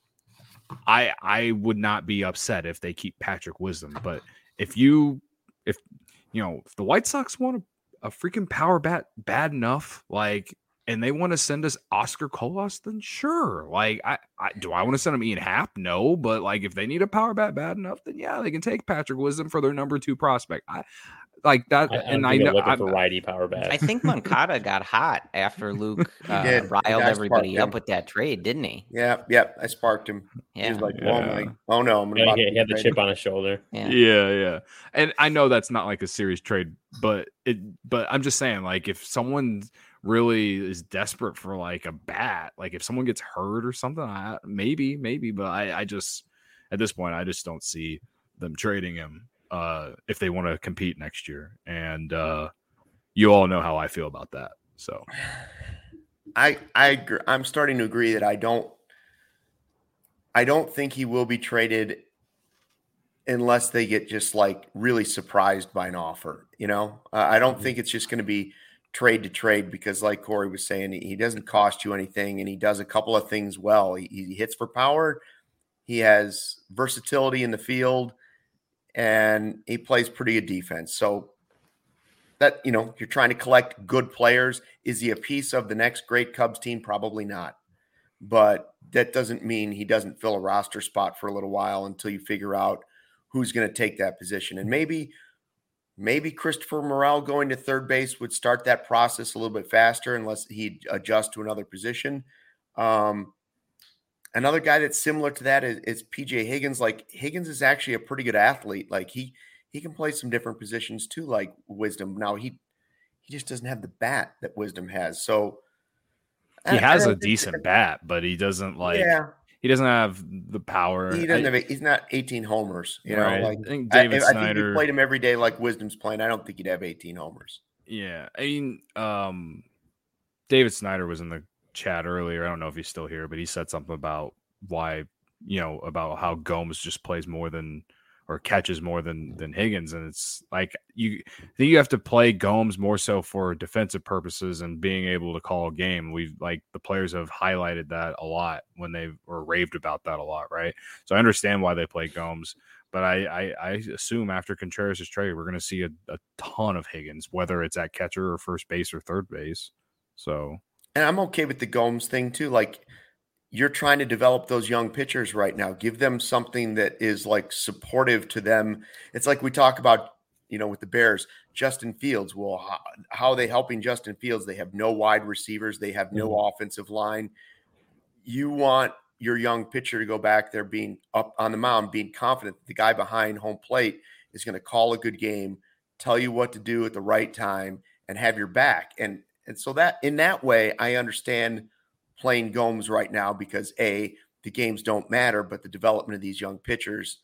I I would not be upset if they keep Patrick Wisdom. But if you if you know if the White Sox want a, a freaking power bat bad enough, like, and they want to send us Oscar Colas, then sure. Like, I, I do I want to send them Ian Happ? No, but like, if they need a power bat bad enough, then yeah, they can take Patrick Wisdom for their number two prospect. I like that, I, and I know looking I'm, for righty power bat. I think Moncada got hot after Luke uh, did. riled everybody up him. with that trade, didn't he? Yeah, yeah. I sparked him. Yeah. He was like, Yeah. "Oh my, oh no, I'm Yeah, about he, to he had the trade chip him." on his shoulder. Yeah. yeah, yeah. And I know that's not like a serious trade, but it. But I'm just saying, like, if someone really is desperate for like a bat, like if someone gets hurt or something, I, maybe, maybe. But I, I just at this point, I just don't see them trading him uh, if they want to compete next year. And uh, you all know how I feel about that. So I I agree. I'm starting to agree that I don't I don't think he will be traded unless they get just like really surprised by an offer. You know, uh, I don't mm-hmm. think it's just going to be trade to trade because, like Corey was saying, he doesn't cost you anything and he does a couple of things well. He, he hits for power, he has versatility in the field, and he plays pretty good defense. So that, you know, you're trying to collect good players. Is he a piece of the next great Cubs team? Probably not. But that doesn't mean he doesn't fill a roster spot for a little while until you figure out who's going to take that position. And maybe, maybe Christopher Morel going to third base would start that process a little bit faster unless he adjusts to another position. Um, another guy that's similar to that is, is P J Higgins. Like Higgins is actually a pretty good athlete. Like he, he can play some different positions too, like Wisdom. Now he, he just doesn't have the bat that Wisdom has. So he has a decent bat, but he doesn't like, yeah. He doesn't have the power. He doesn't I, have. He's not eighteen homers. You know, right. like I think David I, Snyder. I think if you played him every day like Wisdom's playing, I don't think he'd have eighteen homers. Yeah, I mean, um, David Snyder was in the chat earlier. I don't know if he's still here, but he said something about why, you know, about how Gomes just plays more than or catches more than than Higgins, and it's like you I think you have to play Gomes more so for defensive purposes and being able to call a game. We've like the players have highlighted that a lot when they were raved about that a lot, right? So I understand why they play Gomes, but I I, I assume after Contreras is traded, we're going to see a, a ton of Higgins, whether it's at catcher or first base or third base. So, and I'm okay with the Gomes thing too, like. You're trying to develop those young pitchers right now. Give them something that is like supportive to them. It's like we talk about, you know, with the Bears, Justin Fields. Well, how, how are they helping Justin Fields? They have no wide receivers. They have no mm-hmm. offensive line. You want your young pitcher to go back there being up on the mound, being confident that the guy behind home plate is going to call a good game, tell you what to do at the right time, and have your back. And, and so that in that way, I understand playing Gomes right now because A, the games don't matter, but the development of these young pitchers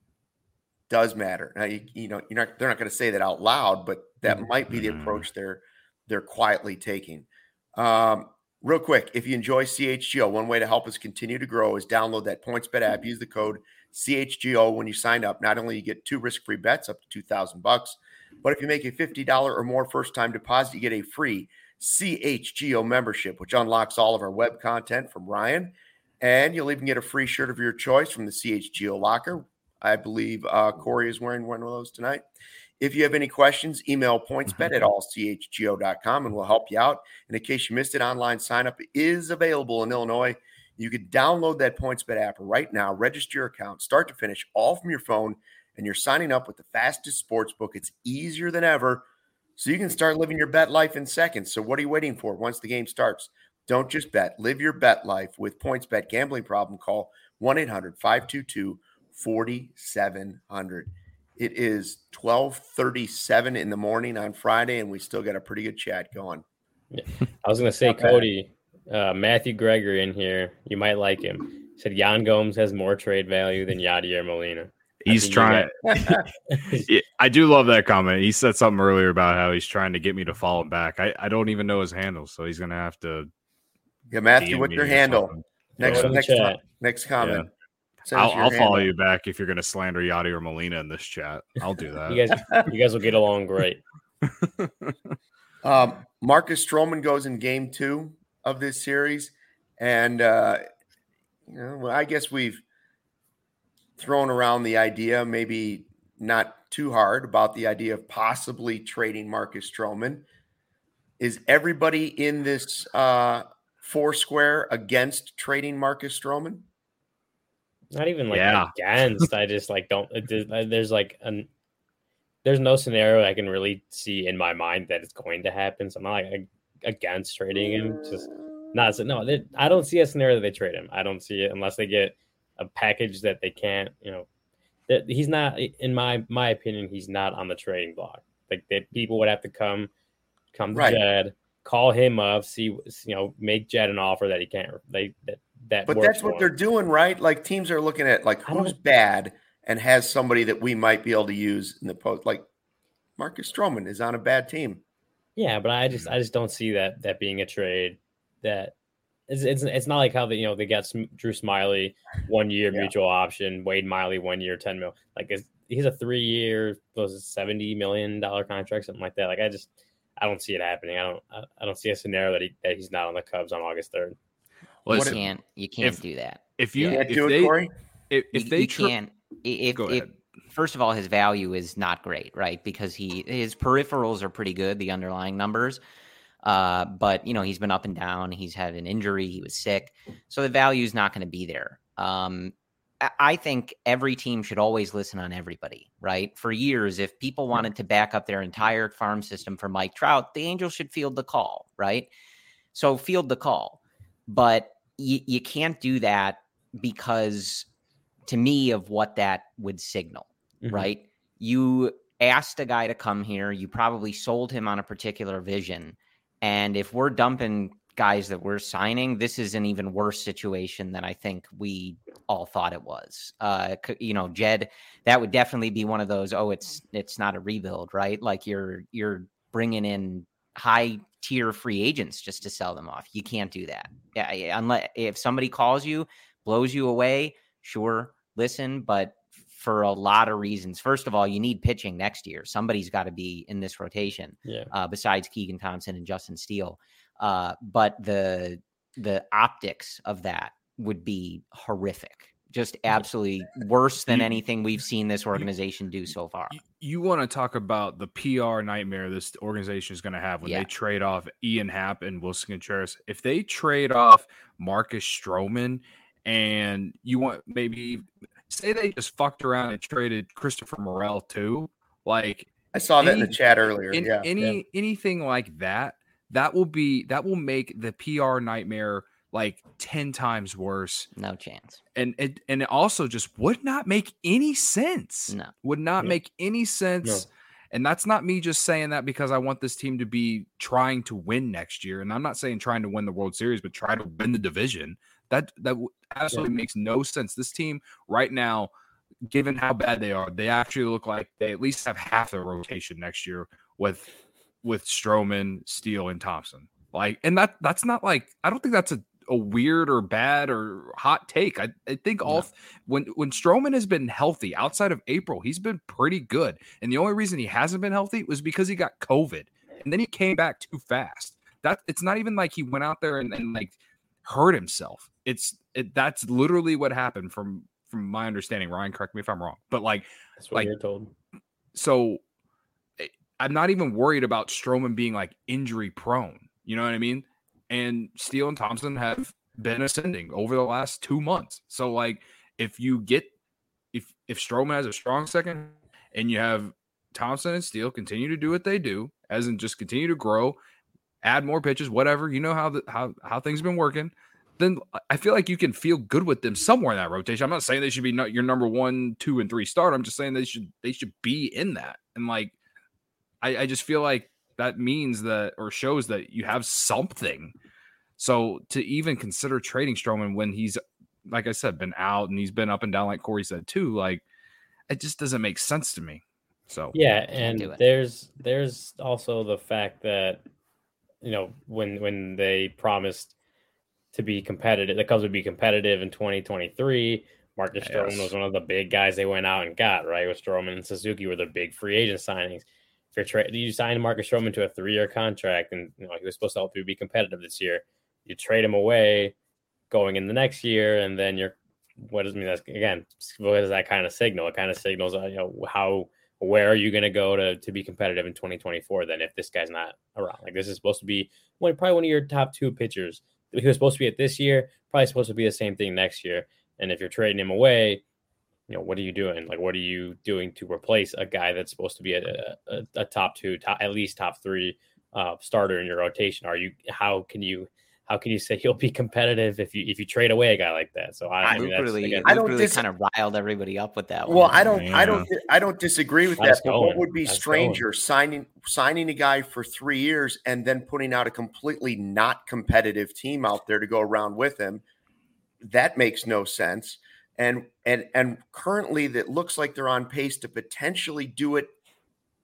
does matter. Now, you, you know, you're not, they're not going to say that out loud, but that might be the approach they're, they're quietly taking. Um, real quick, if you enjoy C H G O, one way to help us continue to grow is download that PointsBet app, use the code C H G O when you sign up. Not only you get two risk-free bets up to two thousand bucks, but if you make a fifty dollars or more first-time deposit, you get a free C H G O membership, which unlocks all of our web content from Ryan, and you'll even get a free shirt of your choice from the C H G O locker. I believe uh, Corey is wearing one of those tonight. If you have any questions, email pointsbet at all c h g o dot com and we'll help you out. And in case you missed it, online sign-up is available in Illinois. You can download that PointsBet app right now, register your account, start to finish, all from your phone, and you're signing up with the fastest sports book. It's easier than ever. So you can start living your bet life in seconds. So what are you waiting for once the game starts? Don't just bet. Live your bet life with PointsBet. Gambling problem? Call one eight hundred five two two four seven zero zero. It is twelve thirty-seven in the morning on Friday, and we still got a pretty good chat going. Yeah. I was going to say, Cody, uh, Matthew Gregory in here, you might like him. Said Yan Gomes has more trade value than Yadier Molina. He's trying. I do love that comment. He said something earlier about how he's trying to get me to follow him back. I, I don't even know his handle, so he's going to have to. Yeah, Matthew, what's your handle? Next, next, next, next comment. Yeah. I'll, I'll follow you back if you're going to slander Yadier or Molina in this chat. I'll do that. you guys, you guys will get along great. um, Marcus Stroman goes in game two of this series, and uh, you know, well, I guess we've thrown around the idea, maybe not too hard, about the idea of possibly trading Marcus Stroman. Is everybody in this uh, four square against trading Marcus Stroman? Not even like yeah. against. I just like don't. It, there's like an. There's no scenario I can really see in my mind that it's going to happen. So I'm not like against trading him. Just not. No, they, I don't see a scenario that they trade him. I don't see it unless they get a package that they can't. You know, that he's not. In my my opinion, he's not on the trading block. Like that, people would have to come, come to right. Jed, call him up, see you know, make Jed an offer that he can't. They that. That but that's what they're doing, right? Like teams are looking at like who's bad and has somebody that we might be able to use in the post. Like Marcus Stroman is on a bad team. Yeah, but I just I just don't see that that being a trade that it's it's, it's not like how they you know they got Drew Smyly one year yeah. mutual option, Wade Miley one year ten mil. Like it's, he's a three year was it seventy million dollar contract, something like that. Like I just I don't see it happening. I don't I, I don't see a scenario that he that he's not on the Cubs on August third. Well, you can't you can't if, do that. If you yeah. if do they it, Corey? if, if you, they you tri- can't if, Go if ahead. First of all, his value is not great, right? Because he his peripherals are pretty good, the underlying numbers. Uh, but you know, he's been up and down. He's had an injury. He was sick, so the value is not going to be there. Um, I think every team should always listen on everybody, right? For years, if people wanted to back up their entire farm system for Mike Trout, the Angels should field the call, right? So field the call, but you, you can't do that because, to me, of what that would signal, mm-hmm. right? You asked a guy to come here. You probably sold him on a particular vision. And if we're dumping guys that we're signing, this is an even worse situation than I think we all thought it was. Uh, you know, Jed, that would definitely be one of those, oh, it's it's not a rebuild, right? Like you're you're bringing in high tier free agents just to sell them off. You can't do that. Yeah, unless if somebody calls you, blows you away, sure, listen, but for a lot of reasons. First of all, you need pitching next year. Somebody's got to be in this rotation yeah. uh, besides Keegan Thompson and Justin Steele. Uh, but the the optics of that would be horrific, just absolutely worse than you, anything we've seen this organization do so far. You, you want to talk about the P R nightmare this organization is going to have when yeah. they trade off Ian Happ and Wilson Contreras. If they trade off Marcus Stroman and you want maybe say they just fucked around and traded Christopher Morel too, like I saw that any, in the chat earlier. In, yeah, any yeah. anything like that. That will be that will make the P R nightmare like ten times worse. No chance. And it and it also just would not make any sense. No. Would not yeah. make any sense. No. And that's not me just saying that because I want this team to be trying to win next year. And I'm not saying trying to win the World Series, but try to win the division. That that absolutely yeah. makes no sense. This team right now, given how bad they are, they actually look like they at least have half their rotation next year with with Stroman, Steele, and Thompson. Like, and that that's not like, I don't think that's a, a weird or bad or hot take. I, I think all no. when when Stroman has been healthy outside of April, he's been pretty good. And the only reason he hasn't been healthy was because he got COVID. And then he came back too fast. That it's not even like he went out there and, and like hurt himself. It's it, that's literally what happened from from my understanding. Ryan, correct me if I'm wrong. But like that's what like, you're told. So I'm not even worried about Stroman being like injury prone. You know what I mean? And Steele and Thompson have been ascending over the last two months. So like if you get if if Stroman has a strong second and you have Thompson and Steele continue to do what they do, as in just continue to grow, add more pitches, whatever, you know how the, how how things have been working, then I feel like you can feel good with them somewhere in that rotation. I'm not saying they should be not your number one, two, and three start. I'm just saying they should they should be in that. And like I, I just feel like that means that or shows that you have something. So to even consider trading Stroman when he's, like I said, been out and he's been up and down, like Corey said too, like it just doesn't make sense to me. So yeah, and there's there's also the fact that you know when when they promised to be competitive, the Cubs would be competitive in twenty twenty-three. Marcus yes. Stroman was one of the big guys they went out and got, right? With Stroman and Suzuki were the big free agent signings. If you're tra- you sign Marcus Stroman to a three-year contract, and you know he was supposed to help you be competitive this year, you trade him away going in the next year, and then you're what does I mean? That's again, what does that kind of signal? It kind of signals, uh, you know, how where are you going to go to to be competitive in twenty twenty-four? Then if this guy's not around, like this is supposed to be one, probably one of your top two pitchers. He was supposed to be at this year, probably supposed to be the same thing next year. And if you're trading him away, you know, what are you doing? Like, what are you doing to replace a guy that's supposed to be a, a, a top two, top, at least top three uh, starter in your rotation? Are you, how can you, how can you say you'll be competitive if you, if you trade away a guy like that? So I, I mean, that's, really, again, I don't really dis- kind of riled everybody up with that well, one. I don't, yeah. I don't, I don't disagree with That's that. But going. what would be That's stranger, going. signing, signing a guy for three years and then putting out a completely not competitive team out there to go around with him? That makes no sense. And and and currently, that looks like they're on pace to potentially do it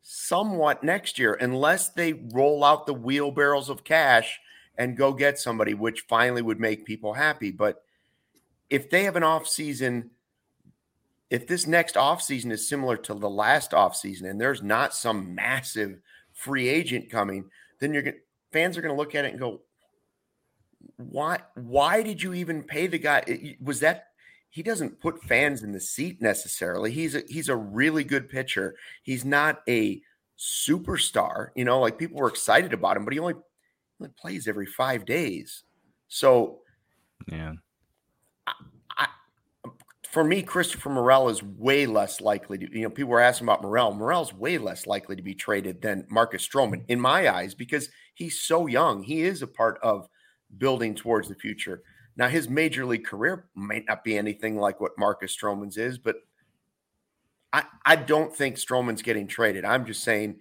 somewhat next year, unless they roll out the wheelbarrows of cash and go get somebody, which finally would make people happy. But if they have an off season, if this next off season is similar to the last off season, and there's not some massive free agent coming, then you're going fans are going to look at it and go, why, why did you even pay the guy? It, was that, he doesn't put fans in the seat necessarily. He's a, he's a really good pitcher. He's not a superstar, you know, like people were excited about him, but he only, only plays every five days. So yeah, I, I, for me, Christopher Morel is way less likely to, you know, people were asking about Morel. Morel's way less likely to be traded than Marcus Stroman in my eyes, because he's so young. He is a part of building towards the future. Now, his major league career might not be anything like what Marcus Stroman's is, but I, I don't think Stroman's getting traded. I'm just saying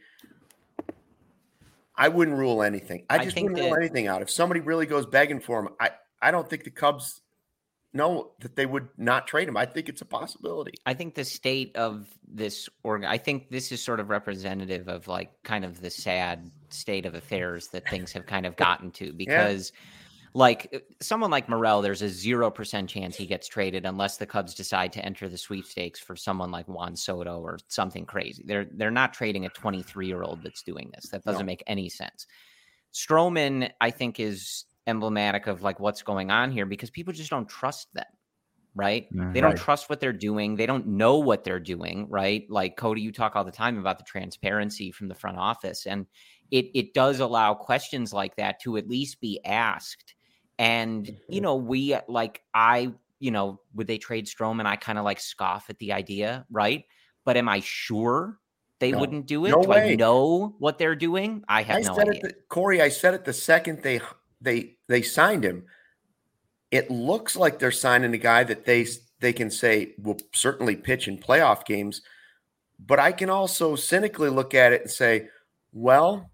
I wouldn't rule anything. I just I wouldn't that, rule anything out. If somebody really goes begging for him, I, I don't think the Cubs know that they would not trade him. I think it's a possibility. I think the state of this org, I think this is sort of representative of like kind of the sad state of affairs that things have kind of gotten to, because yeah. like someone like Morel, there's a zero percent chance he gets traded unless the Cubs decide to enter the sweepstakes for someone like Juan Soto or something crazy. They're they're not trading a twenty-three year old that's doing this. That doesn't no. make any sense. Stroman, I think, is emblematic of like what's going on here, because people just don't trust them, right? Mm, they don't right. trust what they're doing. They don't know what they're doing, right? Like Cody, you talk all the time about the transparency from the front office, and it it does allow questions like that to at least be asked. And, you know, we like, I, you know, would they trade Stroman? I kind of like scoff at the idea, right? But am I sure they no. wouldn't do it? No do way. I know what they're doing? I have I no said idea. It the, Corey, I said it the second they they they signed him. It looks like they're signing a guy that they they can say will certainly pitch in playoff games. But I can also cynically look at it and say, well,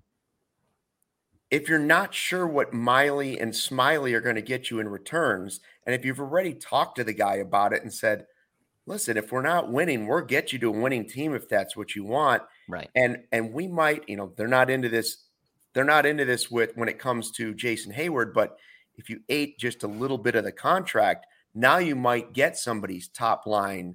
if you're not sure what Miley and Smiley are going to get you in returns, and if you've already talked to the guy about it and said, listen, if we're not winning, we'll get you to a winning team if that's what you want. Right. And and we might, you know, they're not into this. They're not into this with when it comes to Jason Hayward, but if you ate just a little bit of the contract, now you might get somebody's top line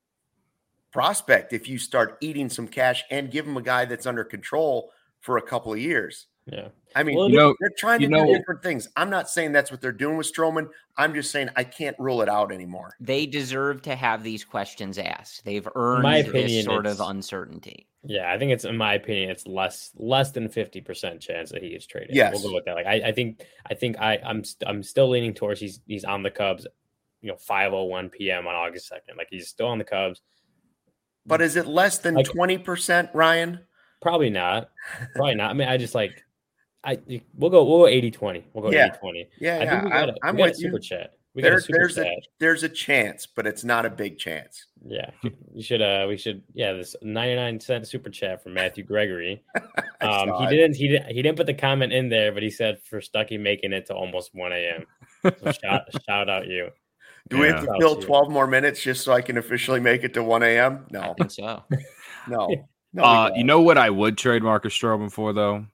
prospect if you start eating some cash and give them a guy that's under control for a couple of years. Yeah. I mean, well, you know, they're trying to you know, do different things. I'm not saying that's what they're doing with Stroman. I'm just saying I can't rule it out anymore. They deserve to have these questions asked. They've earned my opinion, this sort of uncertainty. Yeah, I think it's, in my opinion, it's less less than fifty percent chance that he gets traded. Yes. We'll go with that. Like I, I think I think I I'm st- I'm still leaning towards he's he's on the Cubs, you know, five oh one p.m. on August second. Like he's still on the Cubs. But is it less than like, twenty percent, Ryan? Probably not. Probably not. I mean, I just like I we'll go we'll go eighty twenty. We'll go yeah. eighty twenty. Yeah, I yeah. think we got a, I'm we got with a super you. chat. We there, got a super there's chat. a there's a chance, but it's not a big chance. Yeah, you should. Uh, we should. Yeah, this ninety-nine cent super chat from Matthew Gregory. Um, he it. didn't. He didn't. He didn't put the comment in there, but he said for Stuckey making it to almost one a.m. So shout shout out you. Do yeah. we have to kill twelve more minutes just so I can officially make it to one a.m.? No, I think so. no, no. Uh, you know what I would trade Marcus Stroman for though?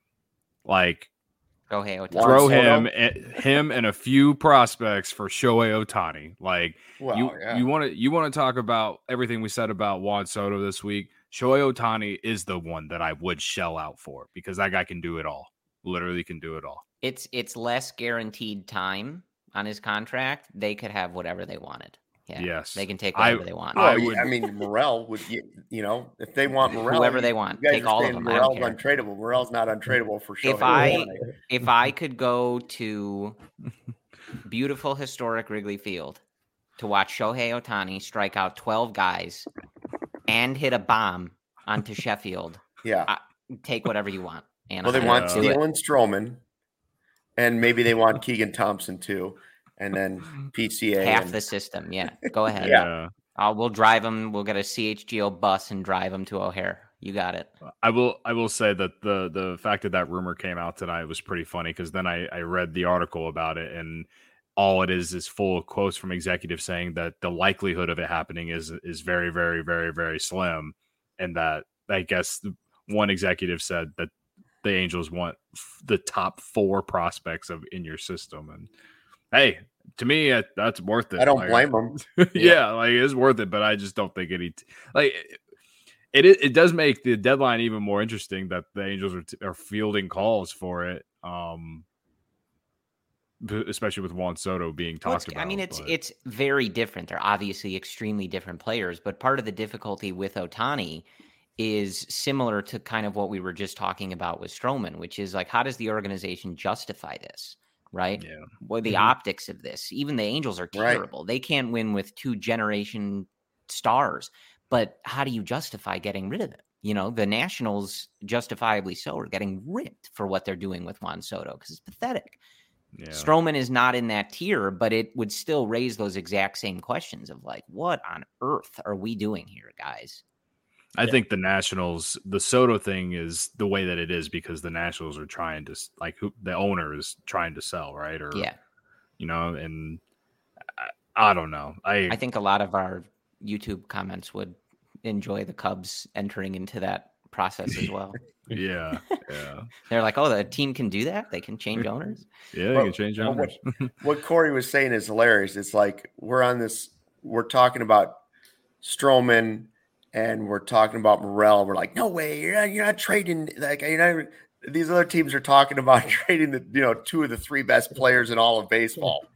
Like. Shohei Ohtani. Throw him, him, and a few prospects for Shohei Ohtani. Like well, you, yeah. you want to, you want to talk about everything we said about Juan Soto this week. Shohei Ohtani is the one that I would shell out for because that guy can do it all. Literally, can do it all. It's it's less guaranteed time on his contract. They could have whatever they wanted. Yeah, yes, they can take whatever I, they want. Well, I, would, I mean, Morel would, you, you know, if they want Morel, whoever they want, you guys take all of them. Morel's untradeable. Morel's not untradeable for sure. If I if I could go to beautiful historic Wrigley Field to watch Shohei Ohtani strike out twelve guys and hit a bomb onto Sheffield, yeah, I, take whatever you want. And well, they I want Steele and Stroman, and maybe they want Keegan Thompson too. And then P C A. Half and... the system. Yeah. Go ahead. yeah. Uh, we'll drive them. We'll get a C H G O bus and drive them to O'Hare. You got it. I will I will say that the the fact that that rumor came out tonight was pretty funny because then I, I read the article about it and all it is is full of quotes from executives saying that the likelihood of it happening is is very, very, very, very slim. And that I guess one executive said that the Angels want f- the top four prospects of in your system, and hey, to me, uh, that's worth it. I don't like, blame them. yeah, yeah, like it's worth it, but I just don't think any like it. It, it does make the deadline even more interesting that the Angels are, t- are fielding calls for it, um, especially with Juan Soto being Well, talked it's- about. I mean, it's but- it's very different. They're obviously extremely different players, but part of the difficulty with Ohtani is similar to kind of what we were just talking about with Stroman, which is like, how does the organization justify this, right? yeah, Well, the Mhm. optics of this. Even the Angels are Right. terrible. They can't win with two generation stars, but how do you justify getting rid of them? You know, the Nationals, justifiably so, are getting ripped for what they're doing with Juan Soto because it's pathetic. yeah. Stroman is not in that tier, but it would still raise those exact same questions of like, what on earth are we doing here, guys? I Yeah. think the Nationals, the Soto thing is the way that it is because the Nationals are trying to s- like who the owner is trying to sell, right? Or Yeah. you know, and I, I don't know. I I think a lot of our YouTube comments would enjoy the Cubs entering into that process as well. yeah, yeah, They're like, oh, the team can do that? They can change owners? yeah. You Well, can change well, owners. What Corey was saying is hilarious. It's like we're on this, we're talking about Stroman and we're talking about Morel. We're like, no way, you're not, you're not trading. Like, you're not, these other teams are talking about trading the, you know, two of the three best players in all of baseball.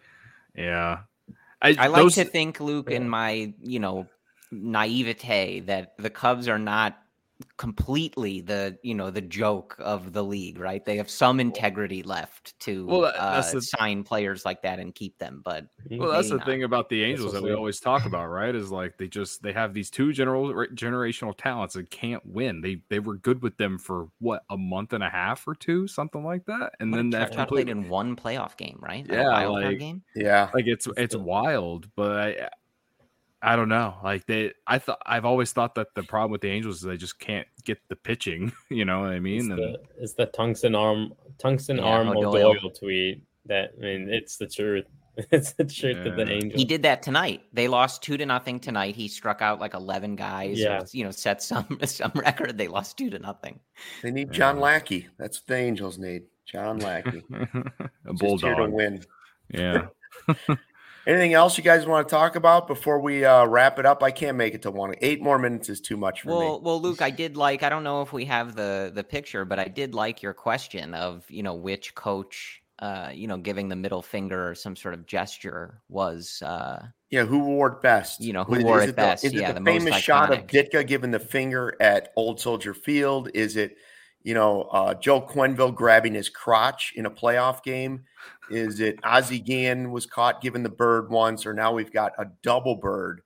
yeah, I like those- to think, Luke, in my, you know, naivete, that the Cubs are not completely the, you know, the joke of the league, right? They have some integrity left to Well, that- that's uh, the- sign players like that and keep them. But Well, that's maybe the not. thing about the Angels what's that we up. always talk about, right? Is like they just they have these two general generational talents that can't win. They they were good with them for what, a month and a half or two, something like that, and What, then Trout that Trout played completely in one playoff game, right? Like Yeah, a wild like- card game. Yeah. like it's It's it's the- wild, but I I don't know. Like they, I thought I've always thought that the problem with the Angels is they just can't get the pitching. You know what I mean? It's And the, it's the tungsten arm tungsten Yeah, arm O'Doyle. O'Doyle tweet that I mean it's the truth. It's the truth of the Yeah. Angels. He did that tonight. They lost two to nothing tonight. He struck out like eleven guys. Yeah. Or, you know, set some some record. They lost two to nothing. They need John Yeah. Lackey. That's what the Angels need. John Lackey. a Just here to bulldog. win. Yeah. Anything else you guys want to talk about before we uh, wrap it up? I can't make it to one. Eight more minutes is too much for Well, me. well, Luke, I did like. I don't know if we have the the picture, but I did like your question of, you know, which coach, uh, you know, giving the middle finger or some sort of gesture was. Uh, Yeah, who wore it best? You know, who Was- wore is it the- best? Is it Yeah, the, the most famous shot of iconic. Ditka giving the finger at Old Soldier Field? Is it, you know, uh, Joe Quenneville grabbing his crotch in a playoff game? Is it Ozzie Guillen was caught giving the bird once, or now we've got a double bird,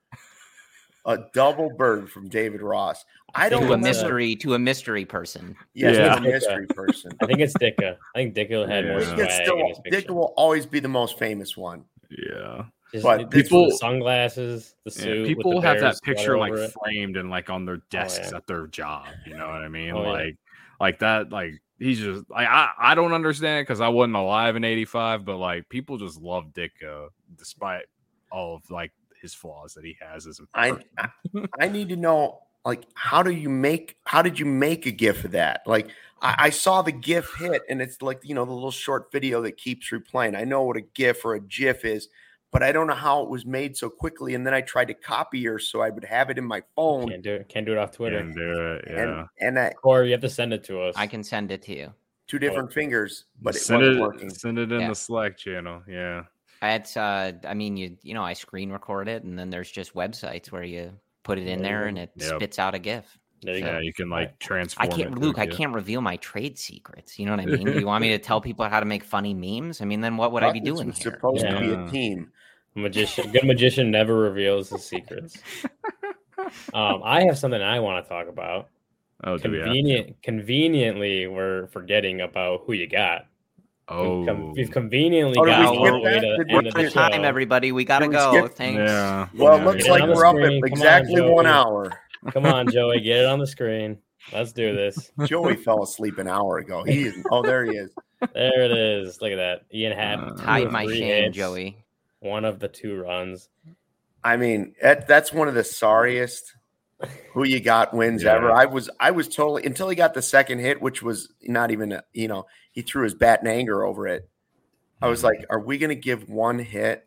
a double bird from David Ross? I don't to a remember. mystery to a mystery person. Yes, Yeah. to a mystery person. I think it's Ditka. I think Ditka had more Yeah. Ditka swag still, in his Ditka picture. will always be the most famous one. Yeah. Just, but it's people- the sunglasses, the suit. Yeah, with people the have that Bears picture sweater like over it. framed and like on their desks yeah. at their job. You know what I mean? Oh, yeah. like, like that. Like he's just like I. I don't understand because I wasn't alive in eighty-five, but like people just love Ditka despite all of like his flaws that he has as a I, person. I I need to know, like, how do you make how did you make a gif of that? Like, I, I saw the gif hit, and it's like, you know, the little short video that keeps replaying. I know what a gif or a gif is, but I don't know how it was made so quickly. And then I tried to copy her so I would have it in my phone. Can't do it. Can't do it off Twitter. Can do it. Yeah. And and I, Or you have to send it to us. I can send it to you. two different fingers, but it send wasn't it. working. Send it in Yeah. the Slack channel. Yeah. It's uh, I mean, you you know, I screen record it, and then there's just websites where you put it in There you there, go. and it Yep. spits out a GIF. There you Yeah. go. You can like Right. transform. I can't, it to Luke. a I GIF. can't reveal my trade secrets. You know what I mean? Do you want me to tell people how to make funny memes? I mean, then what would I be Buckets doing was here? supposed to be Yeah. a team. Magician, good magician never reveals his secrets. Um, I have something I want to talk about. Oh, do we have? Convenient, conveniently, we're forgetting about who you got. Oh. We've, com- we've conveniently Oh, did got we all skip the way that? to Did the we end of We're the on show. time, everybody. We gotta Did we go. skip- Thanks. Yeah. Well, yeah. it looks Get it like on the we're up screen. at Come on, exactly one Joey. hour. Come on, Joey, get it on the screen. Let's do this. Joey fell asleep an hour ago. He is, oh, there he is. There it is. Look at that. Ian had Uh, two Hide of my three shame, hits, Joey. One of the two runs. I mean, that, that's one of the sorriest Who you got wins Yeah. ever. I was I was totally until he got the second hit, which was not even a, you know, he threw his bat in anger over it. I was like, are we gonna give one hit?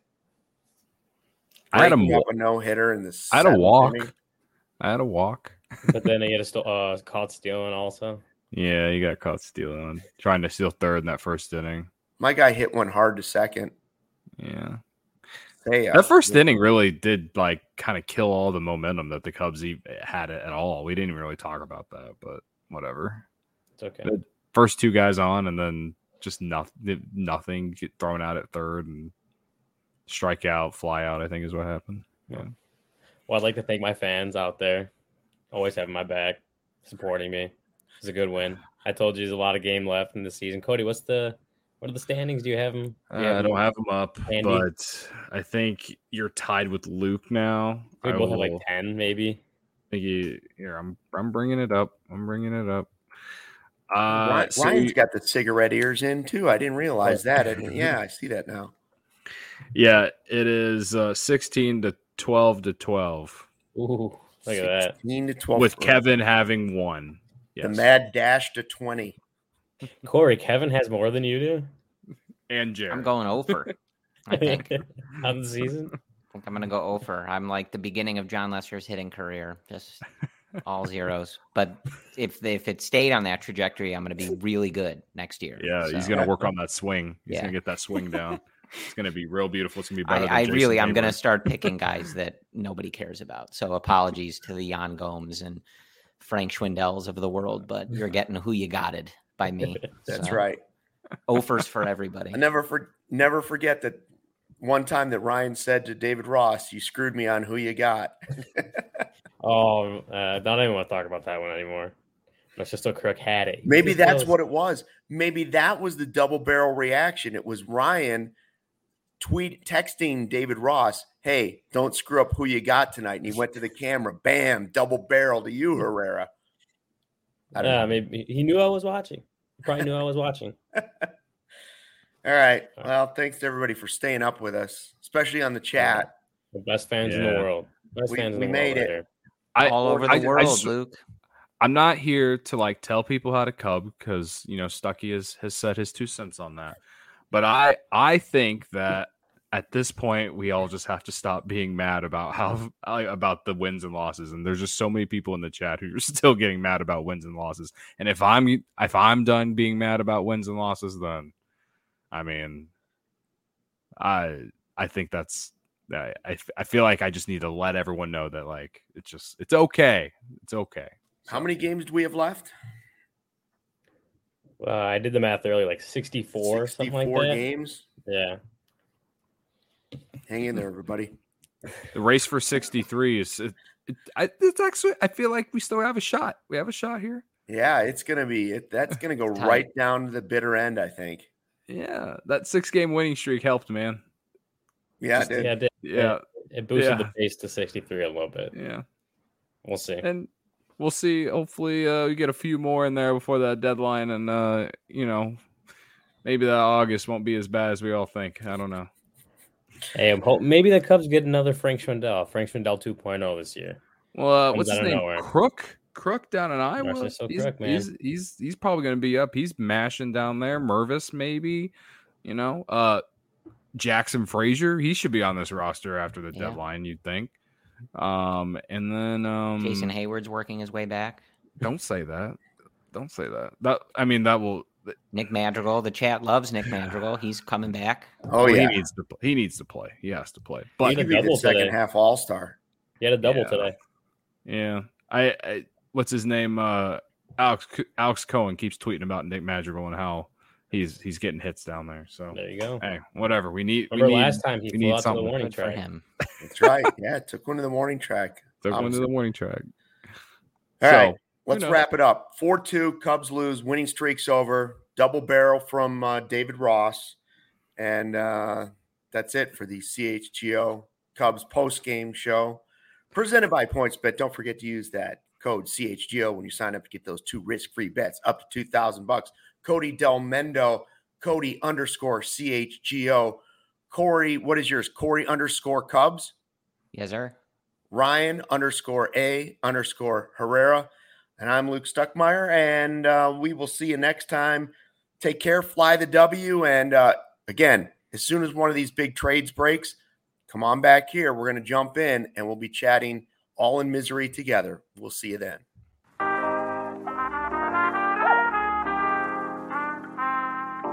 I had a Breaking wa- up a no hitter in the I had a seventh walk. inning? I had a walk. But then he got a uh, caught stealing also. Yeah, you got caught stealing, trying to steal third in that first inning. My guy hit one hard to second. Yeah. Hey, That first inning really did like kind of kill all the momentum that the Cubs e- had at all. We didn't even really talk about that, but whatever. It's okay. The first two guys on, and then just nothing, nothing get thrown out at third and strike out, fly out. I think is what happened. Yeah. Well, I'd like to thank my fans out there, always having my back, supporting me. It's a good win. I told you there's a lot of game left in the season. Cody, what's the what are the standings? Do you have them? Do you Uh, I have don't them? have them up, handy? but I think you're tied with Luke now. We I both have like will- ten, maybe. think you, here, I'm I'm bringing it up. I'm bringing it up. Uh, Ryan, so Ryan's you- got the cigarette ears in too. I didn't realize that. I didn't, yeah, I see that now. yeah, it is uh, sixteen to twelve to twelve, Ooh, look at that. sixteen to twelve. with Kevin having one. Yes. The mad dash to twenty. Corey, Kevin has more than you do and Jared. I'm going over. I think. I on the season. think I'm going to go over. I'm like the beginning of John Lester's hitting career, just all zeros. But if if it stayed on that trajectory, I'm going to be really good next year. Yeah, he's So, gonna work on that swing. He's Yeah. gonna get that swing down. It's gonna be real beautiful. It's gonna be better. than I, I Jason really, I'm going to Hayward. start picking guys that nobody cares about. So apologies to the Jan Gomes and Frank Schwindels of the world, but you're getting who you gotted by me. That's So, right. Offers for everybody. I never for, never forget that one time that Ryan said to David Ross, "You screwed me on who you got." Oh, uh, don't even want to talk about that one anymore. Let's just so Crook had it. He Maybe just that's knows. what it was. Maybe that was the double barrel reaction. It was Ryan tweet texting David Ross, "Hey, don't screw up who you got tonight." And he went to the camera, bam, double barrel to you, Herrera. I don't Yeah, know. maybe he knew I was watching. He probably knew I was watching. All right. Well, thanks to everybody for staying up with us, especially on the chat. The best fans in the Yeah. world. Best We- fans in we the made world it. right here. I, all over the I- I world, just- Luke. I'm not here to like tell people how to cub because you know Stuckey has has said his two cents on that. But I I think that at this point we all just have to stop being mad about how about the wins and losses. And there's just so many people in the chat who are still getting mad about wins and losses. And if I'm if I'm done being mad about wins and losses, then I mean I I think that's I I, I feel like I just need to let everyone know that like it's just it's okay. It's okay. How many games do we have left? Uh, I did the math earlier, like sixty-four, something like sixty-four that. games. Yeah. Hang in there, everybody. The race for sixty-three is it, it, I, it's actually I feel like we still have a shot. We have a shot here. Yeah, it's gonna be it. That's gonna go Tight. right down to the bitter end, I think. Yeah, that six game winning streak helped, man. Yeah, Just- it did. Yeah, it, did. Yeah, it boosted Yeah. the pace to sixty-three a little bit. yeah, We'll see. and we'll see. Hopefully, uh, we get a few more in there before that deadline, and uh, you know, maybe that August won't be as bad as we all think. I don't know. Hey, I'm hope maybe the Cubs get another Frank Schwindel, Frank Schwindel two point oh this year. Well, uh, Comes what's his out of name? nowhere. Crook. Crook down in Iowa. Narciso He's, Crook, man. he's he's he's probably going to be up. He's mashing down there. Mervis, maybe. You know, uh, Jackson Frazier. He should be on this roster after the Yeah. deadline. You'd think. Um, and then um, Jason Hayward's working his way back. Don't say that. Don't say that. That I mean, that will. Nick Madrigal, the chat loves Nick Madrigal. He's coming back. Oh well, yeah, he needs to. He needs to play. He has to play. he But He could be the double second today. half All Star. He had a double Yeah. today. yeah, I, I. What's his name? Uh, Alex Alex Cohen keeps tweeting about Nick Madrigal and how he's he's getting hits down there. So There you go. hey, whatever. We need. Remember we need, last time he we flew need out to the something. warning Good for track. him. That's right. Yeah, took one to the morning track. Took one to Obviously. the morning track. All so, right, let's knows? wrap it up. four two, Cubs lose, winning streak's over. Double barrel from uh, David Ross. And uh, that's it for the C H G O Cubs post-game show. Presented by PointsBet. Don't forget to use that code C H G O when you sign up to get those two risk-free bets up to two thousand bucks. Cody Del Mendo, Cody underscore C H G O. Corey, what is yours? Corey underscore Cubs. Yes, sir. Ryan underscore A underscore Herrera. And I'm Luke Stuckmeyer, and uh, we will see you next time. Take care, fly the W, and uh, again, as soon as one of these big trades breaks, come on back here. We're going to jump in, and we'll be chatting all in misery together. We'll see you then.